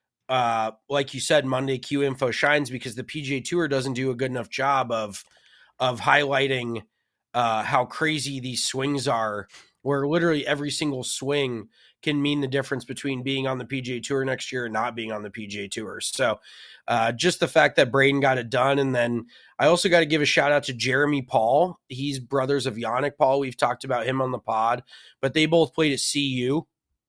[SPEAKER 5] uh, like you said, Monday Q Info shines, because the P G A Tour doesn't do a good enough job of, of highlighting uh, how crazy these swings are, where literally every single swing can mean the difference between being on the P G A Tour next year and not being on the P G A Tour. So uh, just the fact that Braden got it done. And then I also got to give a shout out to Jeremy Paul. He's brothers of Yannick Paul. We've talked about him on the pod, but they both played at C U.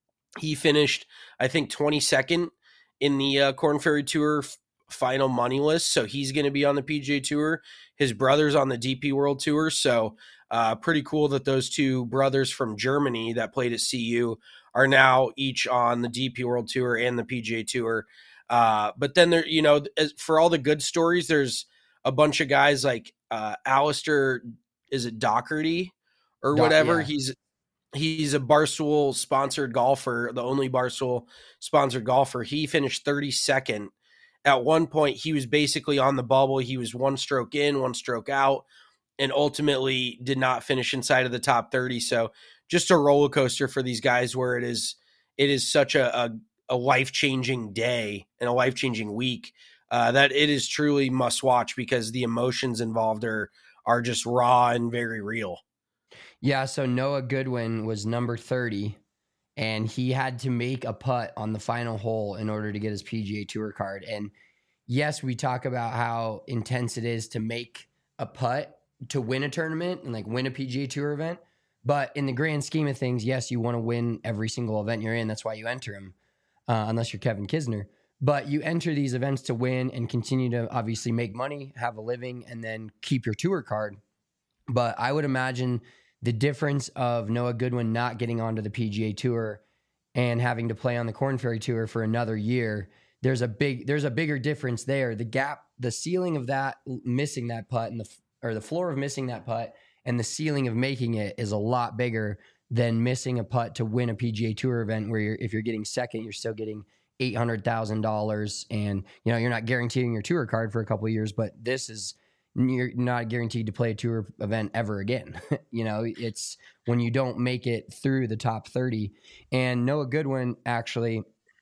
[SPEAKER 5] He finished, I think, twenty-second in the uh, Korn Ferry Tour f- final money list. So he's going to be on the P G A Tour. His brother's on the D P World Tour. So uh, pretty cool that those two brothers from Germany that played at C U are now each on the D P World Tour and the P G A Tour. Uh, but then there, you know, as, for all the good stories, there's a bunch of guys like uh, Alistair, is it Doherty or
[SPEAKER 4] Do-
[SPEAKER 5] whatever?
[SPEAKER 4] yeah.
[SPEAKER 5] He's he's a Barstool sponsored golfer, the only Barstool sponsored golfer. He finished thirty-second. At one point, he was basically on the bubble. He was one stroke in, one stroke out, and ultimately did not finish inside of the top thirty. So just a roller coaster for these guys, where it is it is such a, a, a life-changing day and a life-changing week uh, that it is truly must watch, because the emotions involved are are just raw and very real.
[SPEAKER 4] Yeah, so Noah Goodwin was number thirty, and he had to make a putt on the final hole in order to get his P G A Tour card. And yes, we talk about how intense it is to make a putt to win a tournament and like win a P G A Tour event. But in the grand scheme of things, yes, you want to win every single event you're in. That's why you enter them, uh, unless you're Kevin Kisner. But you enter these events to win and continue to obviously make money, have a living, and then keep your tour card. But I would imagine the difference of Noah Goodwin not getting onto the P G A Tour and having to play on the Korn Ferry Tour for another year, there's a big, there's a bigger difference there. The gap, the ceiling of that missing that putt, and the or the floor of missing that putt, and the ceiling of making it is a lot bigger than missing a putt to win a P G A Tour event, where you're, if you're getting second, you're still getting eight hundred thousand dollars, and you know you're not guaranteeing your tour card for a couple of years. But this is, you're not guaranteed to play a tour event ever again. You know, it's when you don't make it through the top thirty. And Noah Goodwin actually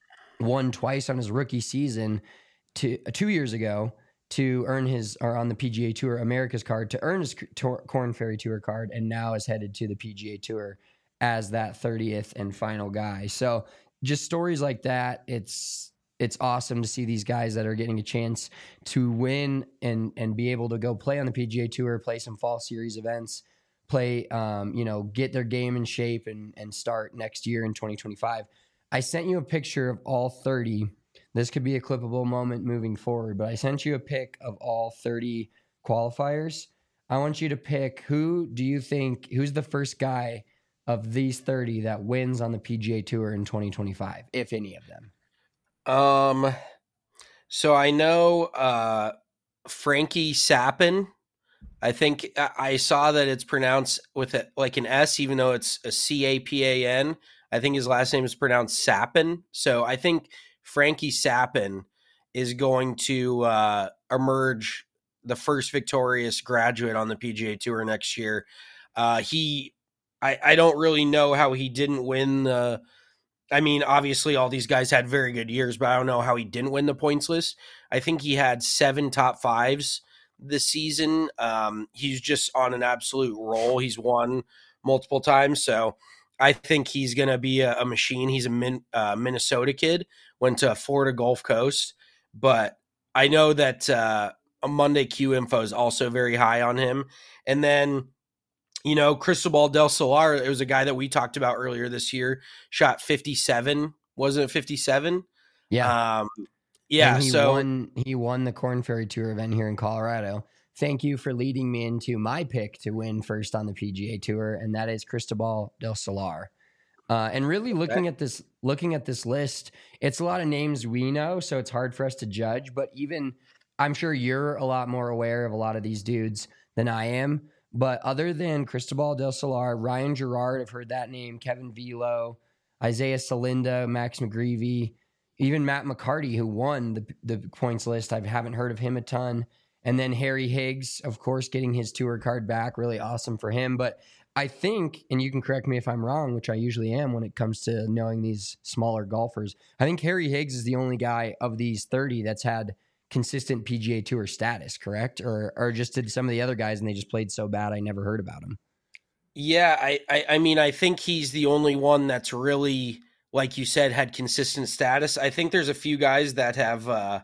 [SPEAKER 4] won twice on his rookie season to uh, two years ago to earn his, or on the P G A Tour America's card, to earn his Tor- Korn Ferry Tour card, and now is headed to the P G A Tour as that thirtieth and final guy. So just stories like that, it's it's awesome to see these guys that are getting a chance to win and and be able to go play on the P G A Tour, play some fall series events, play, um, you know, get their game in shape and and start next year in twenty twenty-five. I sent you a picture of all thirty. This could be a clippable moment moving forward, but I sent you a pic of all thirty qualifiers. I want you to pick who do you think, who's the first guy of these thirty that wins on the P G A Tour in twenty twenty-five, if any of them?
[SPEAKER 5] Um, so I know uh, Frankie Sappin. I think I saw that it's pronounced with a, like an S, even though it's a C A P A N. I think his last name is pronounced Sappin. So I think Frankie Sappin is going to uh, emerge the first victorious graduate on the P G A Tour next year. Uh, he, I, I don't really know how he didn't win the. I mean, obviously, all these guys had very good years, but I don't know how he didn't win the points list. I think he had seven top fives this season. Um, he's just on an absolute roll. He's won multiple times, so I think he's going to be a, a machine. He's a min, uh, Minnesota kid, went to Florida Gulf Coast, but I know that uh, a Monday Q info is also very high on him. And then, you know, Cristobal del Solar, it was a guy that we talked about earlier this year, shot fifty-seven. Wasn't it fifty-seven?
[SPEAKER 4] Yeah.
[SPEAKER 5] Um, yeah.
[SPEAKER 4] And he
[SPEAKER 5] so
[SPEAKER 4] won, he won the Corn Ferry Tour event here in Colorado. Thank you for leading me into my pick to win first on the P G A Tour, and that is Cristobal del Solar. Uh, and really looking
[SPEAKER 5] Okay.
[SPEAKER 4] at this, looking at this list, it's a lot of names we know, so it's hard for us to judge. But even I'm sure you're a lot more aware of a lot of these dudes than I am. But other than Cristobal del Solar, Ryan Gerard, I've heard that name, Kevin Velo, Isaiah Salinda, Max McGreevy, even Matt McCarty, who won the the points list. I haven't heard of him a ton. And then Harry Higgs, of course, getting his tour card back. Really awesome for him. But I think, and you can correct me if I'm wrong, which I usually am when it comes to knowing these smaller golfers, I think Harry Higgs is the only guy of these thirty that's had consistent P G A Tour status, correct? Or or just did some of the other guys and they just played so bad I never heard about them.
[SPEAKER 5] Yeah, I, I, I mean, I think he's the only one that's really, like you said, had consistent status. I think there's a few guys that have uh,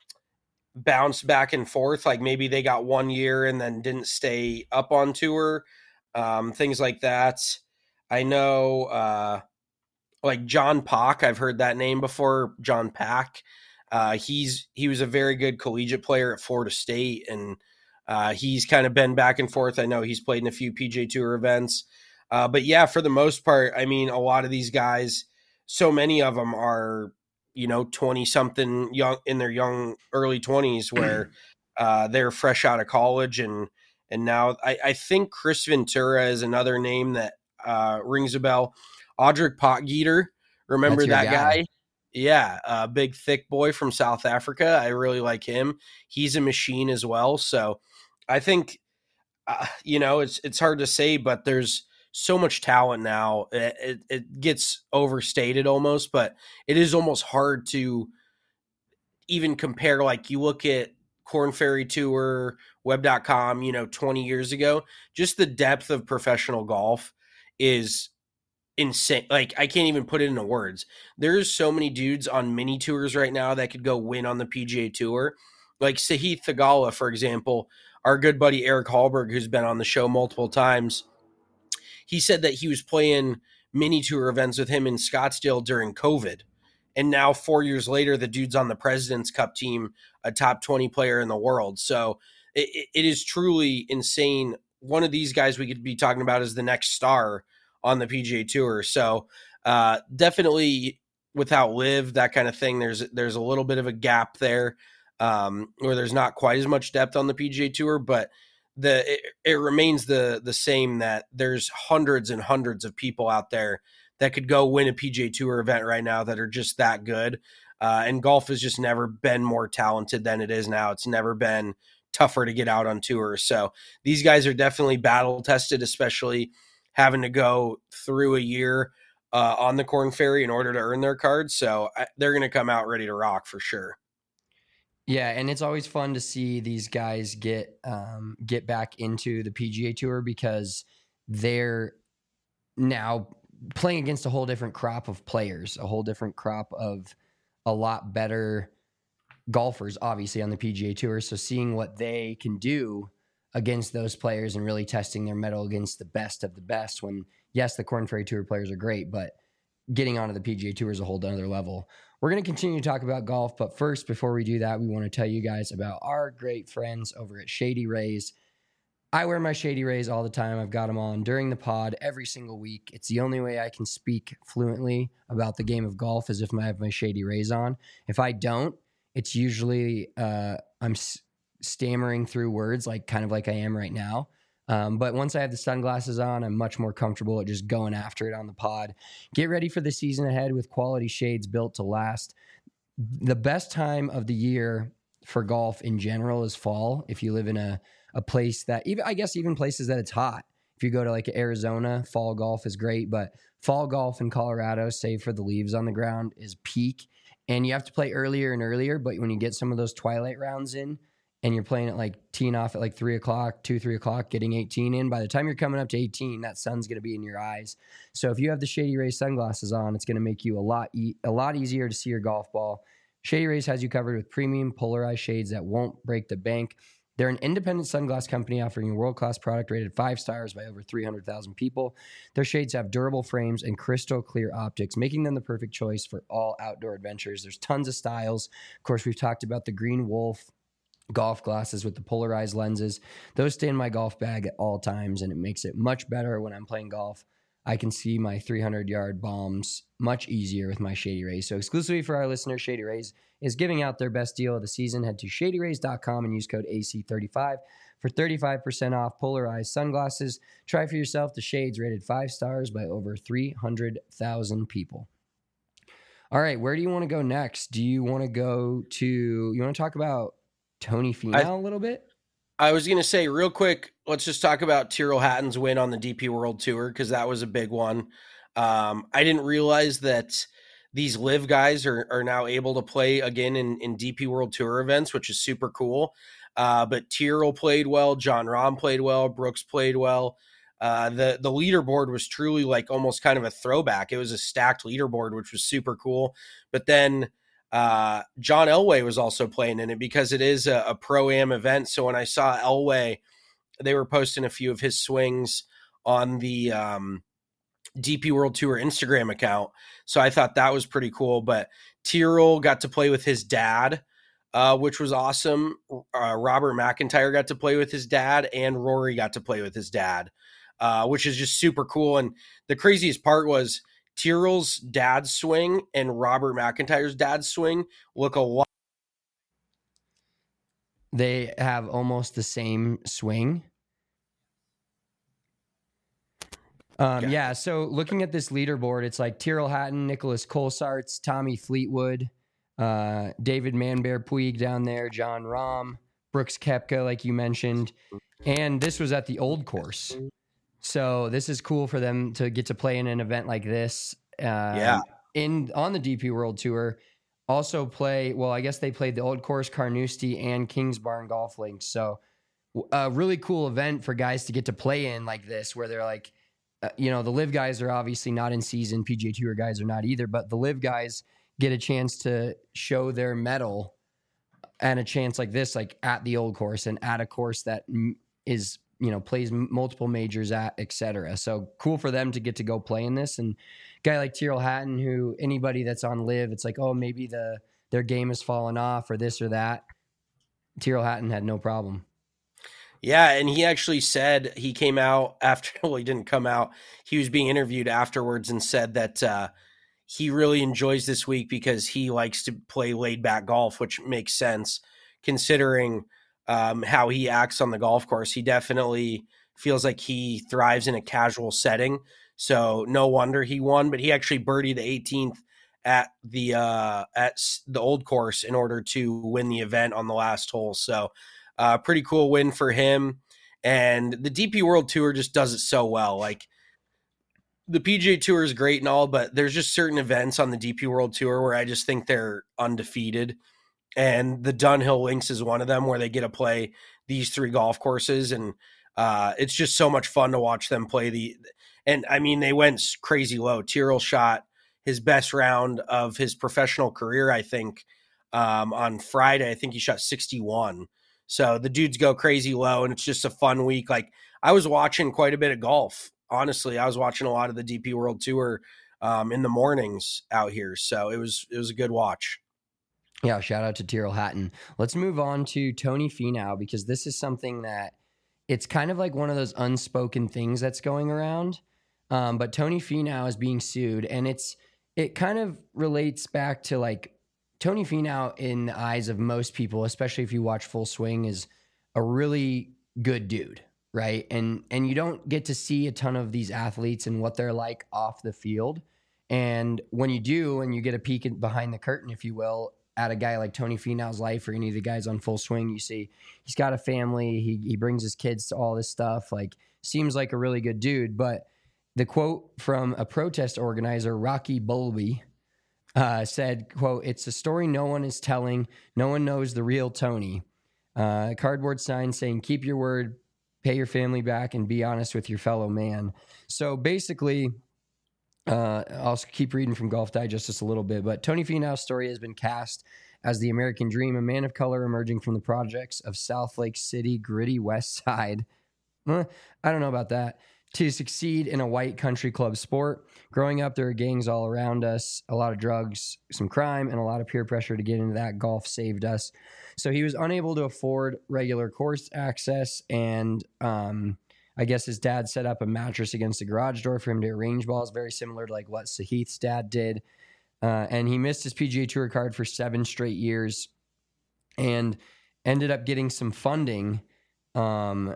[SPEAKER 5] bounced back and forth. Like maybe they got one year and then didn't stay up on tour, um, things like that. I know, uh, like John Pak, I've heard that name before. John Pak. Uh, he's he was a very good collegiate player at Florida State, and uh, he's kind of been back and forth. I know he's played in a few P G A Tour events, uh, but yeah, for the most part, I mean, a lot of these guys, so many of them are, you know, twenty something young in their young early twenties, where uh, they're fresh out of college, and and now I, I think Chris Ventura is another name that uh, rings a bell. Audric Potgieter, remember
[SPEAKER 4] That's your
[SPEAKER 5] that
[SPEAKER 4] guy.
[SPEAKER 5] guy? Yeah, a big thick boy from South Africa. I really like him. He's a machine as well. So I think, uh, you know, it's it's hard to say, but there's so much talent now. It, it, it gets overstated almost, but it is almost hard to even compare. Like you look at Corn Ferry Tour, web dot com, you know, twenty years ago, just the depth of professional golf is insane. Like I can't even put it into words. There's so many dudes on mini tours right now that could go win on the P G A Tour. Like Sahith Theegala, for example, our good buddy Eric Hallberg, who's been on the show multiple times. He said that he was playing mini tour events with him in Scottsdale during COVID. And now four years later, the dude's on the President's Cup team, a top twenty player in the world. So it, it is truly insane. One of these guys we could be talking about is the next star on the P G A Tour. So uh, definitely without Liv, that kind of thing, there's there's a little bit of a gap there um, where there's not quite as much depth on the P G A Tour, but the it, it remains the the same that there's hundreds and hundreds of people out there that could go win a P G A Tour event right now that are just that good. Uh, and golf has just never been more talented than it is now. It's never been tougher to get out on tour. So these guys are definitely battle tested, especially having to go through a year uh, on the Corn Ferry in order to earn their cards. So I, they're going to come out ready to rock for sure.
[SPEAKER 4] Yeah, and it's always fun to see these guys get um, get back into the P G A Tour because they're now playing against a whole different crop of players, a whole different crop of a lot better golfers, obviously, on the P G A Tour. So seeing what they can do against those players and really testing their mettle against the best of the best. When, yes, the Korn Ferry Tour players are great, but getting onto the P G A Tour is a whole other level. We're going to continue to talk about golf, but first, before we do that, we want to tell you guys about our great friends over at Shady Rays. I wear my Shady Rays all the time. I've got them on during the pod every single week. It's the only way I can speak fluently about the game of golf is if I have my Shady Rays on. If I don't, it's usually uh, I'm s- stammering through words, like kind of like I am right now. Um, but once I have the sunglasses on, I'm much more comfortable at just going after it on the pod. Get ready for the season ahead with quality shades built to last. The best time of the year for golf in general is fall. If you live in a a place that even, I guess even places that it's hot. If you go to like Arizona, fall golf is great, but fall golf in Colorado, save for the leaves on the ground, is peak. And you have to play earlier and earlier, but when you get some of those twilight rounds in and you're playing at like teeing off at like three o'clock, two, three o'clock, getting eighteen in, by the time you're coming up to eighteen, that sun's going to be in your eyes. So if you have the Shady Rays sunglasses on, it's going to make you a lot, e- a lot easier to see your golf ball. Shady Rays has you covered with premium polarized shades that won't break the bank. They're an independent sunglass company offering a world-class product rated five stars by over three hundred thousand people. Their shades have durable frames and crystal clear optics, making them the perfect choice for all outdoor adventures. There's tons of styles. Of course, we've talked about the Green Wolf golf glasses with the polarized lenses. Those stay in my golf bag at all times, and it makes it much better when I'm playing golf. I can see my three hundred yard bombs much easier with my Shady Rays. So exclusively for our listeners, Shady Rays is giving out their best deal of the season. Head to shady rays dot com and use code A C thirty-five for thirty-five percent off polarized sunglasses. Try for yourself the shades rated five stars by over three hundred thousand people. All right, where do you want to go next? Do you want to go to, you want to talk about Tony Finau
[SPEAKER 5] I,
[SPEAKER 4] a little bit?
[SPEAKER 5] I was going to say real quick, let's just talk about Tyrrell Hatton's win on the D P World Tour, because that was a big one. Um, I didn't realize that these live guys are, are now able to play again in, in D P World Tour events, which is super cool. Uh, but Tyrrell played well. Jon Rahm played well. Brooks played well. Uh, the, the leaderboard was truly like almost kind of a throwback. It was a stacked leaderboard, which was super cool. But then uh, John Elway was also playing in it because it is a, a pro-am event. So when I saw Elway, they were posting a few of his swings on the um, D P World Tour Instagram account. So I thought that was pretty cool. But Tyrrell got to play with his dad, uh, which was awesome. Uh, Robert McIntyre got to play with his dad, and Rory got to play with his dad, uh, which is just super cool. And the craziest part was Tyrrell's dad's swing and Robert McIntyre's dad's swing look a lot.
[SPEAKER 4] They have almost the same swing. Um,
[SPEAKER 5] Okay.
[SPEAKER 4] Yeah, so looking at this leaderboard, it's like Tyrrell Hatton, Nicholas Colsaerts, Tommy Fleetwood, uh, David Manbear Puig down there, Jon Rahm, Brooks Koepka, like you mentioned. And this was at the Old Course. So this is cool for them to get to play in an event like this. Uh,
[SPEAKER 5] Yeah.
[SPEAKER 4] In on the D P World Tour. Also play, well, I guess they played the Old Course, Carnoustie, and Kingsbarn Golf Links. So a really cool event for guys to get to play in like this, where they're like, uh, you know, the live guys are obviously not in season. P G A Tour guys are not either, but the live guys get a chance to show their mettle and a chance like this, like at the Old Course and at a course that is, you know, plays multiple majors at, et cetera. So cool for them to get to go play in this. And a guy like Tyrrell Hatton, who anybody that's on live, it's like, oh, maybe the their game has fallen off or this or that. Tyrrell Hatton had no problem.
[SPEAKER 5] Yeah, and he actually said he came out after, well, he didn't come out. He was being interviewed afterwards and said that uh, he really enjoys this week because he likes to play laid-back golf, which makes sense considering um, how he acts on the golf course. He definitely feels like he thrives in a casual setting, so no wonder he won. But he actually birdied the eighteenth at the uh, at the Old Course in order to win the event on the last hole. So Uh, pretty cool win for him. And the D P World Tour just does it so well. Like, the P G A Tour is great and all, but there's just certain events on the D P World Tour where I just think they're undefeated. And the Dunhill Links is one of them, where they get to play these three golf courses. And uh, it's just so much fun to watch them play the, and I mean, they went crazy low. Tyrrell shot his best round of his professional career, I think, um, on Friday. I think he shot sixty-one. So the dudes go crazy low, and it's just a fun week. Like, I was watching quite a bit of golf. Honestly, I was watching a lot of the D P World Tour um, in the mornings out here. So it was it was a good watch.
[SPEAKER 4] Yeah, shout out to Tyrrell Hatton. Let's move on to Tony Finau, because this is something that it's kind of like one of those unspoken things that's going around. Um, but Tony Finau is being sued, and it's it kind of relates back to like Tony Finau in the eyes of most people, especially if you watch Full Swing, is a really good dude, right? And and you don't get to see a ton of these athletes and what they're like off the field. And when you do, and you get a peek in, behind the curtain, if you will, at a guy like Tony Finau's life or any of the guys on Full Swing, you see he's got a family. He he brings his kids to all this stuff. Like, seems like a really good dude. But the quote from a protest organizer, Rocky Bulby, uh, said, quote, "It's a story no one is telling. No one knows the real Tony." Uh, cardboard sign saying, "Keep your word, pay your family back, and be honest with your fellow man." So basically, Uh, I'll keep reading from Golf Digest just a little bit, but Tony Finau's story has been cast as the American dream, a man of color emerging from the projects of South Lake City, gritty West Side. Eh, I don't know about that. To succeed in a white country club sport. Growing up, there are gangs all around us, a lot of drugs, some crime, and a lot of peer pressure to get into that. Golf saved us. So he was unable to afford regular course access, and um, I guess his dad set up a mattress against the garage door for him to arrange balls, very similar to like what Sahith's dad did. Uh, and he missed his P G A Tour card for seven straight years and ended up getting some funding um,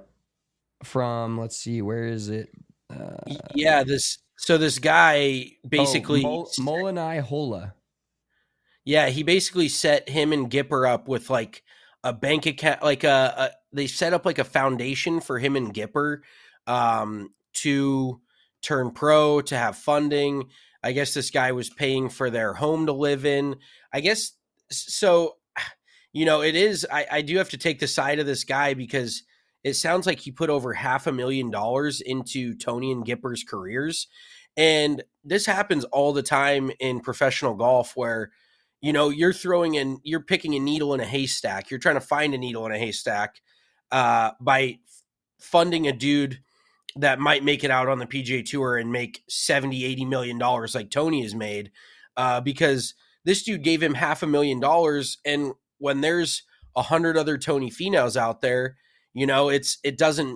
[SPEAKER 4] from, let's see, where is it? Uh,
[SPEAKER 5] yeah, this so this guy basically
[SPEAKER 4] oh, Mol- Molinai Hola.
[SPEAKER 5] Yeah, he basically set him and Gipper up with like a bank account, like a, a they set up like a foundation for him and Gipper um, to turn pro, to have funding. I guess this guy was paying for their home to live in. I guess so. You know, it is. I, I do have to take the side of this guy because it sounds like he put over half a million dollars into Tony and Gipper's careers, and this happens all the time in professional golf where, you know, you're throwing in, you're picking a needle in a haystack. You're trying to find a needle in a haystack uh, by funding a dude that might make it out on the P G A Tour and make seventy, eighty million dollars like Tony has made uh, because this dude gave him half a million dollars. And when there's a hundred other Tony Finaus out there, you know, it's, it doesn't,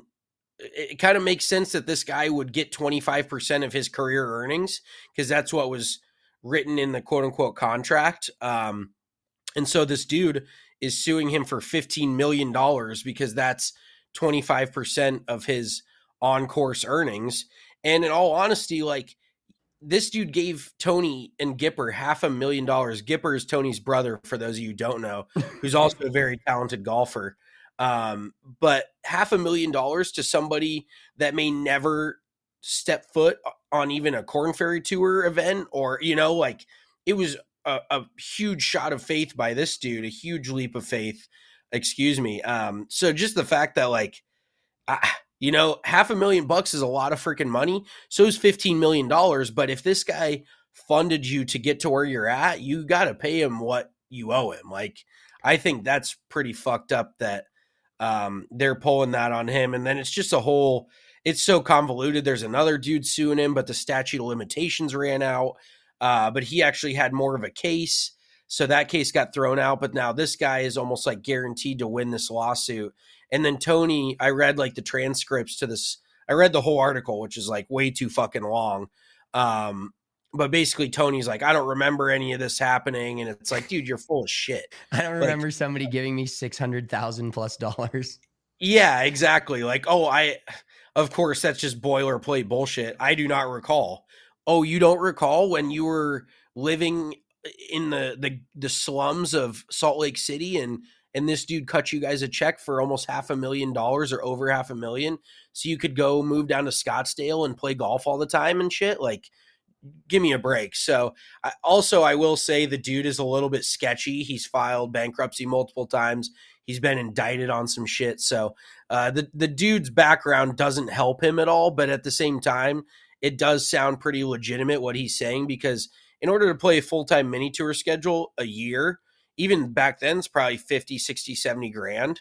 [SPEAKER 5] it kind of makes sense that this guy would get twenty-five percent of his career earnings because that's what was written in the quote unquote contract. Um, and so this dude is suing him for fifteen million dollars because that's twenty-five percent of his on course earnings. And in all honesty, like, this dude gave Tony and Gipper half a million dollars. Gipper is Tony's brother, for those of you who don't know, who's also a very talented golfer. Um, but half a million dollars to somebody that may never step foot on even a Korn Ferry Tour event, or, you know, like, it was a, a huge shot of faith by this dude, a huge leap of faith, excuse me. Um, so just the fact that, like, I, you know, half a million bucks is a lot of freaking money. So is fifteen million dollars. But if this guy funded you to get to where you're at, you got to pay him what you owe him. Like, I think that's pretty fucked up that um, they're pulling that on him. And then it's just a whole, it's so convoluted. There's another dude suing him, but the statute of limitations ran out. Uh, but he actually had more of a case. So that case got thrown out. But now this guy is almost like guaranteed to win this lawsuit. And then Tony, I read like the transcripts to this. I read the whole article, which is like way too fucking long. Um, but basically Tony's like, I don't remember any of this happening. And it's like, dude, you're full of shit.
[SPEAKER 4] I don't
[SPEAKER 5] like,
[SPEAKER 4] remember somebody giving me six hundred thousand plus dollars.
[SPEAKER 5] Yeah, exactly. Like, oh, I, of course, that's just boilerplate bullshit. I do not recall. Oh, you don't recall when you were living in the, the, the slums of Salt Lake City and, and this dude cut you guys a check for almost half a million dollars or over half a million so you could go move down to Scottsdale and play golf all the time and shit? Like, give me a break. So I, also, I will say the dude is a little bit sketchy. He's filed bankruptcy multiple times. He's been indicted on some shit. So uh, the, the dude's background doesn't help him at all. But at the same time, it does sound pretty legitimate what he's saying, because in order to play a full-time mini tour schedule a year, even back then, it's probably fifty, sixty, seventy grand.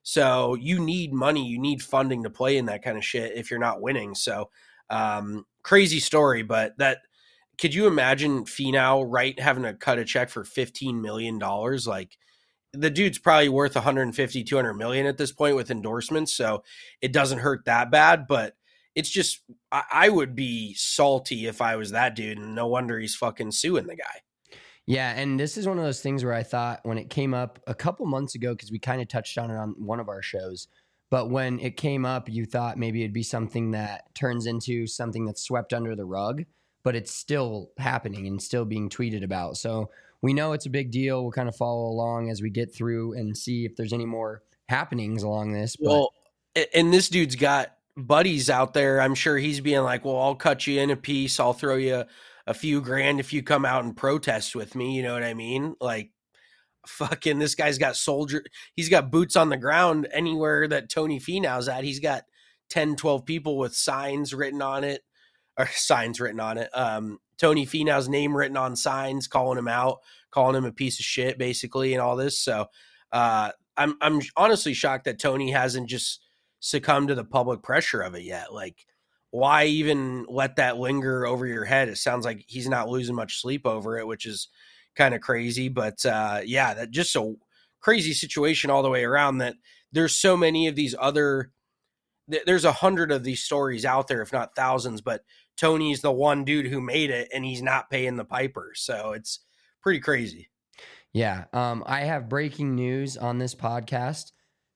[SPEAKER 5] So you need money, you need funding to play in that kind of shit if you're not winning. So um, crazy story, but that could you imagine Finau, right, having to cut a check for fifteen million dollars? Like the dude's probably worth one hundred fifty, two hundred million at this point with endorsements. So it doesn't hurt that bad, but it's just, I, I would be salty if I was that dude, and no wonder he's fucking suing the guy.
[SPEAKER 4] Yeah, and this is one of those things where I thought when it came up a couple months ago, because we kind of touched on it on one of our shows, but when it came up, you thought maybe it'd be something that turns into something that's swept under the rug, but it's still happening and still being tweeted about. So we know it's a big deal. We'll kind of follow along as we get through and see if there's any more happenings along this. But
[SPEAKER 5] well, and this dude's got buddies out there. I'm sure he's being like, well, I'll cut you in a piece. I'll throw you a few grand if you come out and protest with me. You know what I mean? Like fucking this guy's got soldier. He's got boots on the ground anywhere that Tony Finau's at. He's got ten, twelve people with signs written on it or signs written on it. Um, Tony Finau's name written on signs, calling him out, calling him a piece of shit basically. And all this. So uh, I'm, I'm honestly shocked that Tony hasn't just succumbed to the public pressure of it yet. Like, why even let that linger over your head? It sounds like he's not losing much sleep over it, which is kind of crazy. But uh, yeah, that just a crazy situation all the way around that there's so many of these other, th- there's a hundred of these stories out there, if not thousands, but Tony's the one dude who made it and he's not paying the piper. So it's pretty crazy.
[SPEAKER 4] Yeah. Um, I have breaking news on this podcast.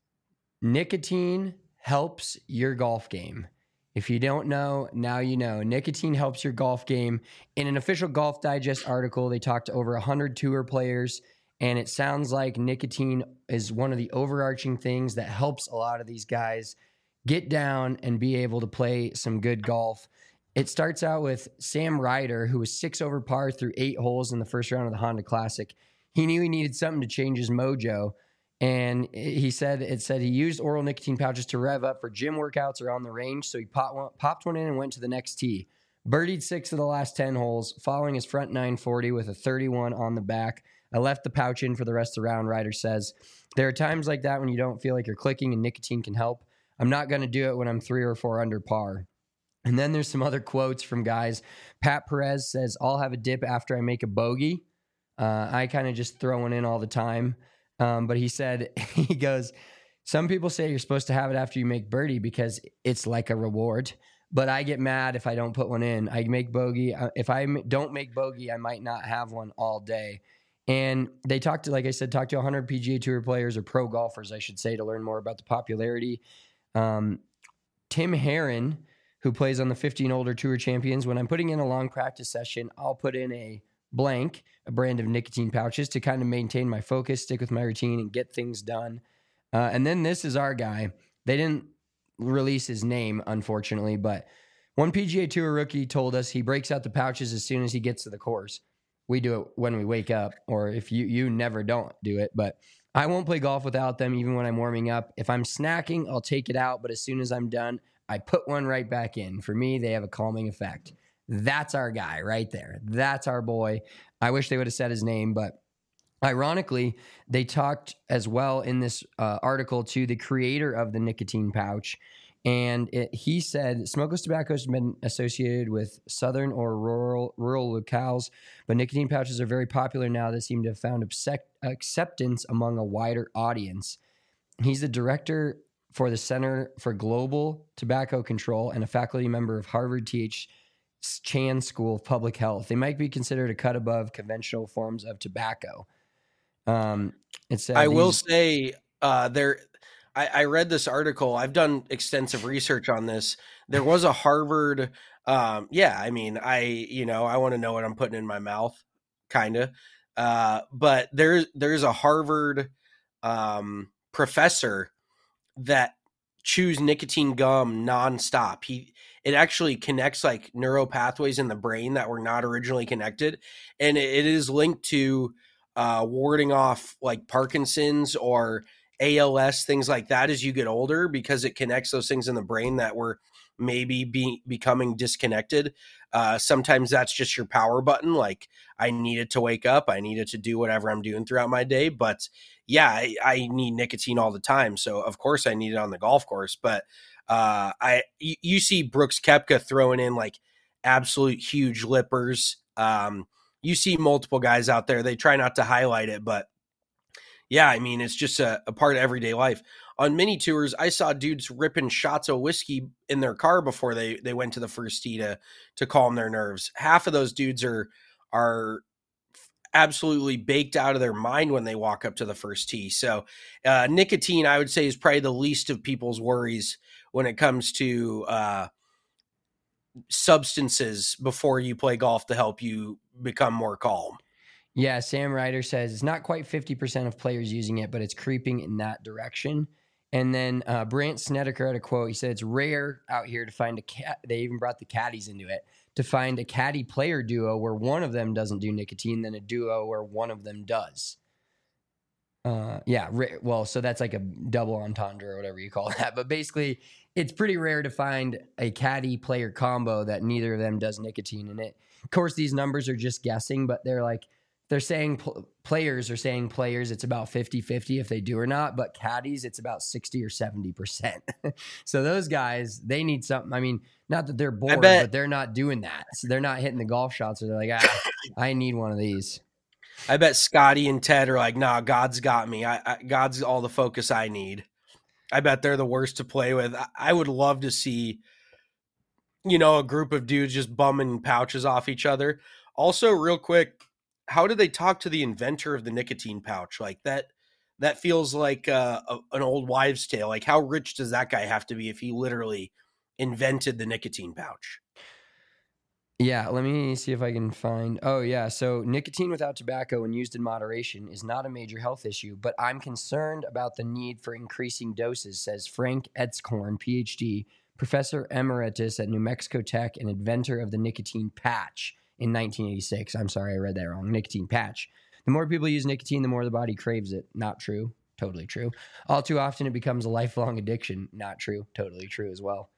[SPEAKER 4] Nicotine helps your golf game. If you don't know, now you know. Nicotine helps your golf game. In an official Golf Digest article, they talked to over one hundred tour players, and it sounds like nicotine is one of the overarching things that helps a lot of these guys get down and be able to play some good golf. It starts out with Sam Ryder, who was six over par through eight holes in the first round of the Honda Classic. He knew he needed something to change his mojo. And he said, it said he used oral nicotine pouches to rev up for gym workouts or on the range. So he popped one, popped one in and went to the next tee. Birdied six of the last ten holes, following his front nine forty with a thirty-one on the back. I left the pouch in for the rest of the round, Ryder says. There are times like that when you don't feel like you're clicking and nicotine can help. I'm not going to do it when I'm three or four under par. And then there's some other quotes from guys. Pat Perez says, I'll have a dip after I make a bogey. Uh, I kind of just throw one in all the time. Um, but he said, he goes, some people say you're supposed to have it after you make birdie because it's like a reward. But I get mad if I don't put one in. I make bogey. If I don't make bogey, I might not have one all day. And they talked to, like I said, talked to one hundred P G A Tour players or pro golfers, I should say, to learn more about the popularity. Um, Tim Herron, who plays on the fifteen Older Tour Champions, when I'm putting in a long practice session, I'll put in a blank, a brand of nicotine pouches to kind of maintain my focus, stick with my routine, and get things done. Uh, and then this is our guy. They didn't release his name, unfortunately, but one P G A Tour rookie told us he breaks out the pouches as soon as he gets to the course. We do it when we wake up, or if you you never don't do it, but I won't play golf without them even when I'm warming up. If I'm snacking, I'll take it out, but as soon as I'm done, I put one right back in. For me, they have a calming effect. That's our guy right there. That's our boy. I wish they would have said his name, but ironically, they talked as well in this uh, article to the creator of the nicotine pouch. And it, he said, smokeless tobacco has been associated with southern or rural rural locales, but nicotine pouches are very popular now that seem to have found accept- acceptance among a wider audience. He's the director for the Center for Global Tobacco Control and a faculty member of Harvard T H Chan School of Public Health. They might be considered a cut above conventional forms of tobacco. Um, it's, uh,
[SPEAKER 5] I
[SPEAKER 4] these-
[SPEAKER 5] will say uh, there. I, I read this article. I've done extensive research on this. There was a Harvard. Um, yeah, I mean, I you know I want to know what I'm putting in my mouth, kind of. Uh, but there's there's a Harvard um, professor that chews nicotine gum nonstop. He it actually connects like neural pathways in the brain that were not originally connected, and it, it is linked to uh, warding off like Parkinson's or A L S, things like that as you get older, because it connects those things in the brain that were maybe be, becoming disconnected. Uh, sometimes that's just your power button. Like I needed to wake up. I needed to do whatever I'm doing throughout my day. But yeah, I, I need nicotine all the time. So of course I need it on the golf course. But uh, I, you, you see Brooks Koepka throwing in like absolute huge lippers. Um, you see multiple guys out there. They try not to highlight it, but yeah, I mean, it's just a, a part of everyday life. On mini tours, I saw dudes ripping shots of whiskey in their car before they, they went to the first tee to, to calm their nerves. Half of those dudes are, are absolutely baked out of their mind when they walk up to the first tee. So uh, nicotine, I would say, is probably the least of people's worries when it comes to uh, substances before you play golf to help you become more calm.
[SPEAKER 4] Yeah, Sam Ryder says it's not quite fifty percent of players using it, but it's creeping in that direction. And then uh, Brant Snedeker had a quote. He said, it's rare out here to find a cat. They even brought the caddies into it to find a caddy player duo where one of them doesn't do nicotine, then a duo where one of them does. Uh, yeah. Well, so that's like a double entendre or whatever you call that. But basically, it's pretty rare to find a caddy player combo that neither of them does nicotine in it. Of course, these numbers are just guessing, but they're like, they're saying pl- players are saying players, it's about fifty-fifty if they do or not, but caddies, it's about sixty or seventy percent. So those guys, they need something. I mean, not that they're bored, but they're not doing that. So they're not hitting the golf shots. Or they're like, ah, I need one of these.
[SPEAKER 5] I bet Scotty and Ted are like, nah, God's got me. I, I God's all the focus I need. I bet they're the worst to play with. I, I would love to see, you know, a group of dudes just bumming pouches off each other. Also, real quick, how did they talk to the inventor of the nicotine pouch? Like that, that feels like uh, a, an old wives' tale. Like how rich does that guy have to be if he literally invented the nicotine pouch?
[SPEAKER 4] Yeah, let me see if I can find. Oh, yeah. So nicotine without tobacco when used in moderation is not a major health issue, but I'm concerned about the need for increasing doses, says Frank Etzkorn, P H D, professor emeritus at New Mexico Tech and inventor of the nicotine patch in nineteen eighty-six. I'm sorry, I read that wrong. Nicotine patch. The more people use nicotine, the more the body craves it. Not true. Totally true. All too often it becomes a lifelong addiction. Not true. Totally true as well.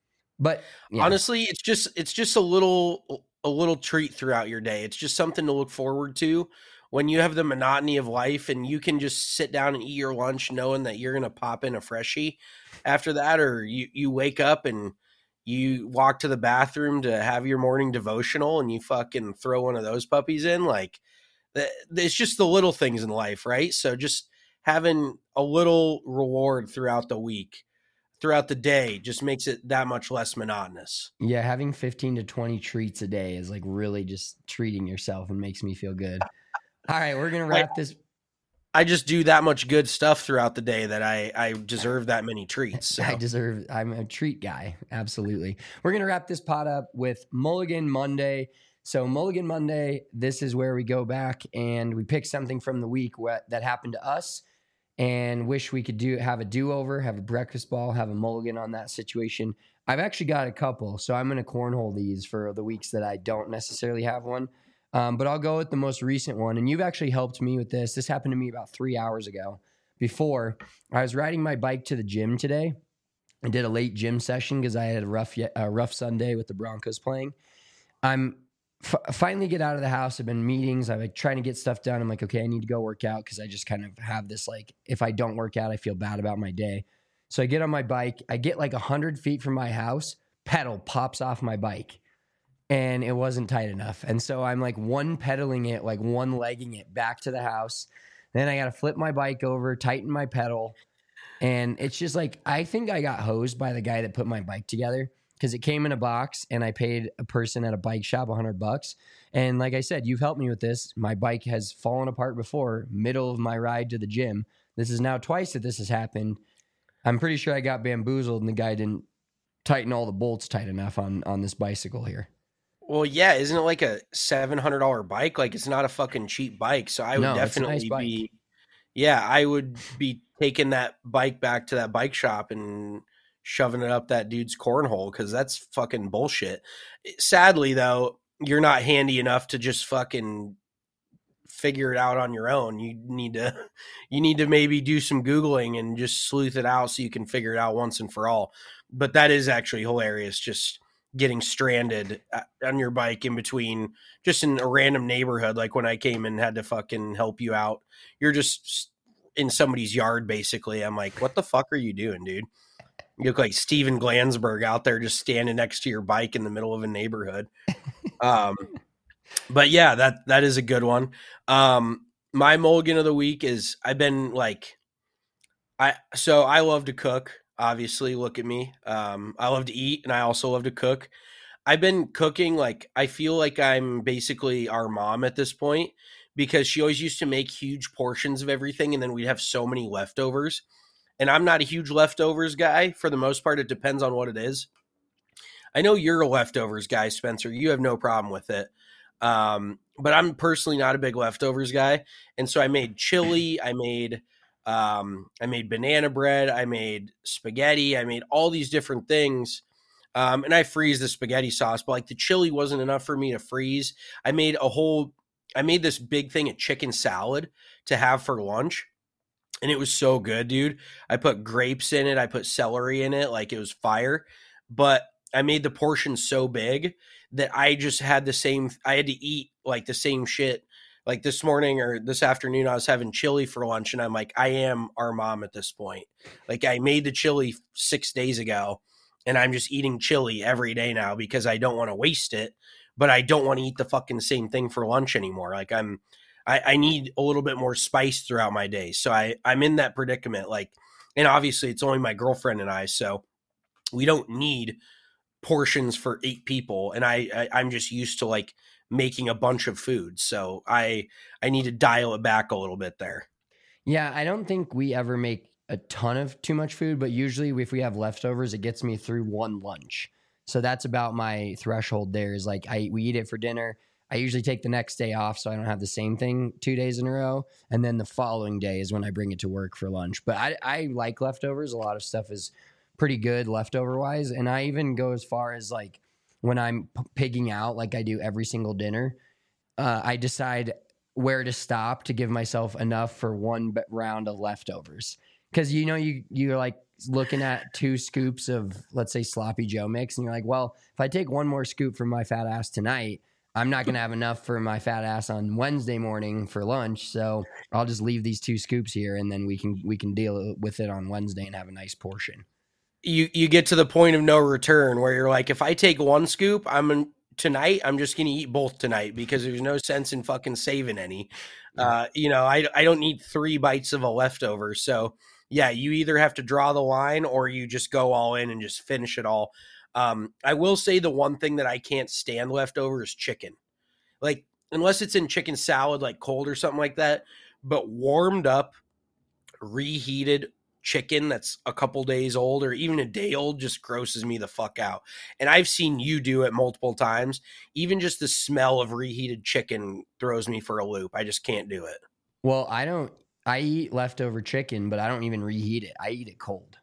[SPEAKER 4] But yeah.
[SPEAKER 5] Honestly, it's just it's just a little a little treat throughout your day. It's just something to look forward to when you have the monotony of life and you can just sit down and eat your lunch knowing that you're going to pop in a freshie after that, or you, you wake up and you walk to the bathroom to have your morning devotional and you fucking throw one of those puppies in. Like, it's just the little things in life, right? So just having a little reward throughout the week, throughout the day, just makes it that much less monotonous.
[SPEAKER 4] Yeah, having fifteen to twenty treats a day is like really just treating yourself and makes me feel good. All right, we're going to wrap
[SPEAKER 5] I,
[SPEAKER 4] this.
[SPEAKER 5] I just do that much good stuff throughout the day that I, I deserve that many treats. So.
[SPEAKER 4] I deserve, I'm a treat guy. Absolutely. We're going to wrap this pod up with Mulligan Monday. So Mulligan Monday, this is where we go back and we pick something from the week what, that happened to us and wish we could do have a do-over, have a breakfast ball, have a mulligan on that situation. I've actually got a couple, so I'm going to cornhole these for the weeks that I don't necessarily have one. Um, but I'll go with the most recent one. And you've actually helped me with this. This happened to me about three hours ago. Before, I was riding my bike to the gym today. I did a late gym session because I had a rough, a rough Sunday with the Broncos playing. I'm f- finally get out of the house. I've been in meetings. I'm like trying to get stuff done. I'm like, okay, I need to go work out because I just kind of have this, like, if I don't work out, I feel bad about my day. So I get on my bike. I get like one hundred feet from my house. Pedal pops off my bike. And it wasn't tight enough. And so I'm like one pedaling it, like one legging it back to the house. Then I got to flip my bike over, tighten my pedal. And it's just like, I think I got hosed by the guy that put my bike together because it came in a box and I paid a person at a bike shop a hundred bucks. And like I said, you've helped me with this. My bike has fallen apart before, middle of my ride to the gym. This is now twice that this has happened. I'm pretty sure I got bamboozled and the guy didn't tighten all the bolts tight enough on, on this bicycle here.
[SPEAKER 5] Well, yeah, isn't it like a seven hundred dollars bike? Like, it's not a fucking cheap bike. So I would
[SPEAKER 4] no,
[SPEAKER 5] definitely
[SPEAKER 4] it's a nice
[SPEAKER 5] be,
[SPEAKER 4] bike.
[SPEAKER 5] yeah, I would be taking that bike back to that bike shop and shoving it up that dude's cornhole because that's fucking bullshit. Sadly, though, you're not handy enough to just fucking figure it out on your own. You need to, you need to maybe do some Googling and just sleuth it out so you can figure it out once and for all. But that is actually hilarious. Just getting stranded on your bike in between, just in a random neighborhood. Like when I came and had to fucking help you out, you're just in somebody's yard, basically. I'm like, what the fuck are you doing, dude? You look like Steven Glansberg out there just standing next to your bike in the middle of a neighborhood. Um, but yeah, that that is a good one. Um, my mulligan of the week is I've been like, I so I love to cook. Obviously, look at me. Um, I love to eat, and I also love to cook. I've been cooking, like, I feel like I'm basically our mom at this point, because she always used to make huge portions of everything, and then we'd have so many leftovers. And I'm not a huge leftovers guy. For the most part, it depends on what it is. I know you're a leftovers guy, Spencer. You have no problem with it. Um, but I'm personally not a big leftovers guy. And so I made chili. I made um, I made banana bread. I made spaghetti. I made all these different things. Um, and I freeze the spaghetti sauce, but like the chili wasn't enough for me to freeze. I made a whole, I made this big thing of chicken salad to have for lunch. And it was so good, dude. I put grapes in it. I put celery in it. Like, it was fire. But I made the portion so big that I just had the same, I had to eat like the same shit. Like this morning or this afternoon, I was having chili for lunch, and I'm like, I am our mom at this point. Like, I made the chili six days ago. And I'm just eating chili every day now because I don't want to waste it, but I don't want to eat the fucking same thing for lunch anymore. Like, I'm, I, I need a little bit more spice throughout my day. So I, I'm in that predicament. Like, and obviously it's only my girlfriend and I, so we don't need portions for eight people. And I, I I'm just used to like making a bunch of food. So I, I need to dial it back a little bit there.
[SPEAKER 4] Yeah. I don't think we ever make a ton of too much food, but usually if we have leftovers, it gets me through one lunch. So that's about my threshold there, is like, I we eat it for dinner. I usually take the next day off so I don't have the same thing two days in a row. And then the following day is when I bring it to work for lunch. But I, I like leftovers. A lot of stuff is pretty good leftover wise. And I even go as far as like when I'm p- pigging out, like I do every single dinner, uh, I decide where to stop to give myself enough for one b- round of leftovers. Because, you know, you, you're like looking at two scoops of, let's say, sloppy Joe mix, and you're like, well, if I take one more scoop from my fat ass tonight, I'm not going to have enough for my fat ass on Wednesday morning for lunch. So I'll just leave these two scoops here, and then we can we can deal with it on Wednesday and have a nice portion.
[SPEAKER 5] You you get to the point of no return where you're like, if I take one scoop, I'm in, tonight, I'm just going to eat both tonight, because there's no sense in fucking saving any. Uh, you know, I, I don't need three bites of a leftover. So yeah, you either have to draw the line or you just go all in and just finish it all. Um, I will say the one thing that I can't stand leftover is chicken. Like, unless it's in chicken salad, like cold or something like that, but warmed up, reheated chicken that's a couple days old or even a day old just grosses me the fuck out. And I've seen you do it multiple times. Even just the smell of reheated chicken throws me for a loop. I just can't do it.
[SPEAKER 4] Well, I don't, I eat leftover chicken, but I don't even reheat it. I eat it cold.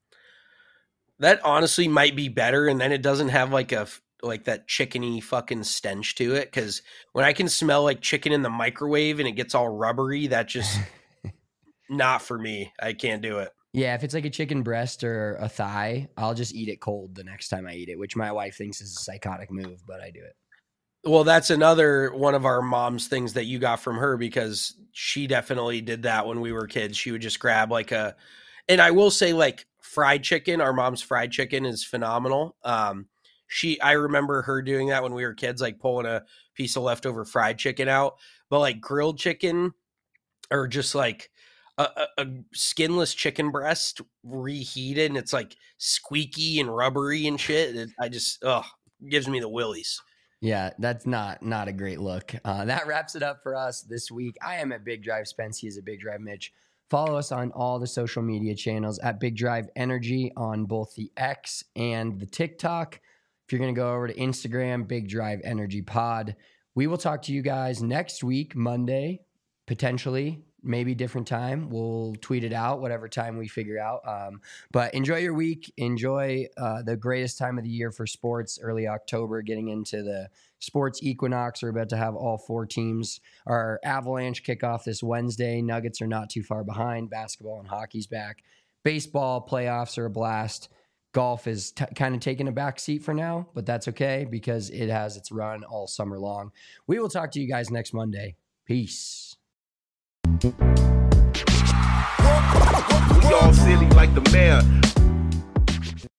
[SPEAKER 5] That honestly might be better. And then it doesn't have like a, like that chickeny fucking stench to it. Cause when I can smell like chicken in the microwave and it gets all rubbery, that just not for me. I can't do it.
[SPEAKER 4] Yeah. If it's like a chicken breast or a thigh, I'll just eat it cold the next time I eat it, which my wife thinks is a psychotic move, but I do it.
[SPEAKER 5] Well, that's another one of our mom's things that you got from her, because she definitely did that when we were kids. She would just grab like a, and I will say like fried chicken, our mom's fried chicken is phenomenal. Um, she, I remember her doing that when we were kids, like pulling a piece of leftover fried chicken out, but like grilled chicken or just like a, a, a skinless chicken breast reheated and it's like squeaky and rubbery and shit. It, I just, ugh, gives me the willies.
[SPEAKER 4] Yeah, that's not not a great look. Uh, that wraps it up for us this week. I am at Big Drive Spence. He is at Big Drive Mitch. Follow us on all the social media channels at Big Drive Energy on both the X and the TikTok. If you're going to go over to Instagram, Big Drive Energy Pod. We will talk to you guys next week, Monday, potentially. Maybe different time. We'll tweet it out, whatever time we figure out. Um, but enjoy your week. Enjoy uh, the greatest time of the year for sports, early October, getting into the sports equinox. We're about to have all four teams. Our Avalanche kickoff this Wednesday. Nuggets are not too far behind. Basketball and hockey's back. Baseball playoffs are a blast. Golf is t- kind of taking a back seat for now, but that's okay because it has its run all summer long. We will talk to you guys next Monday. Peace.
[SPEAKER 8] We all silly like the mayor.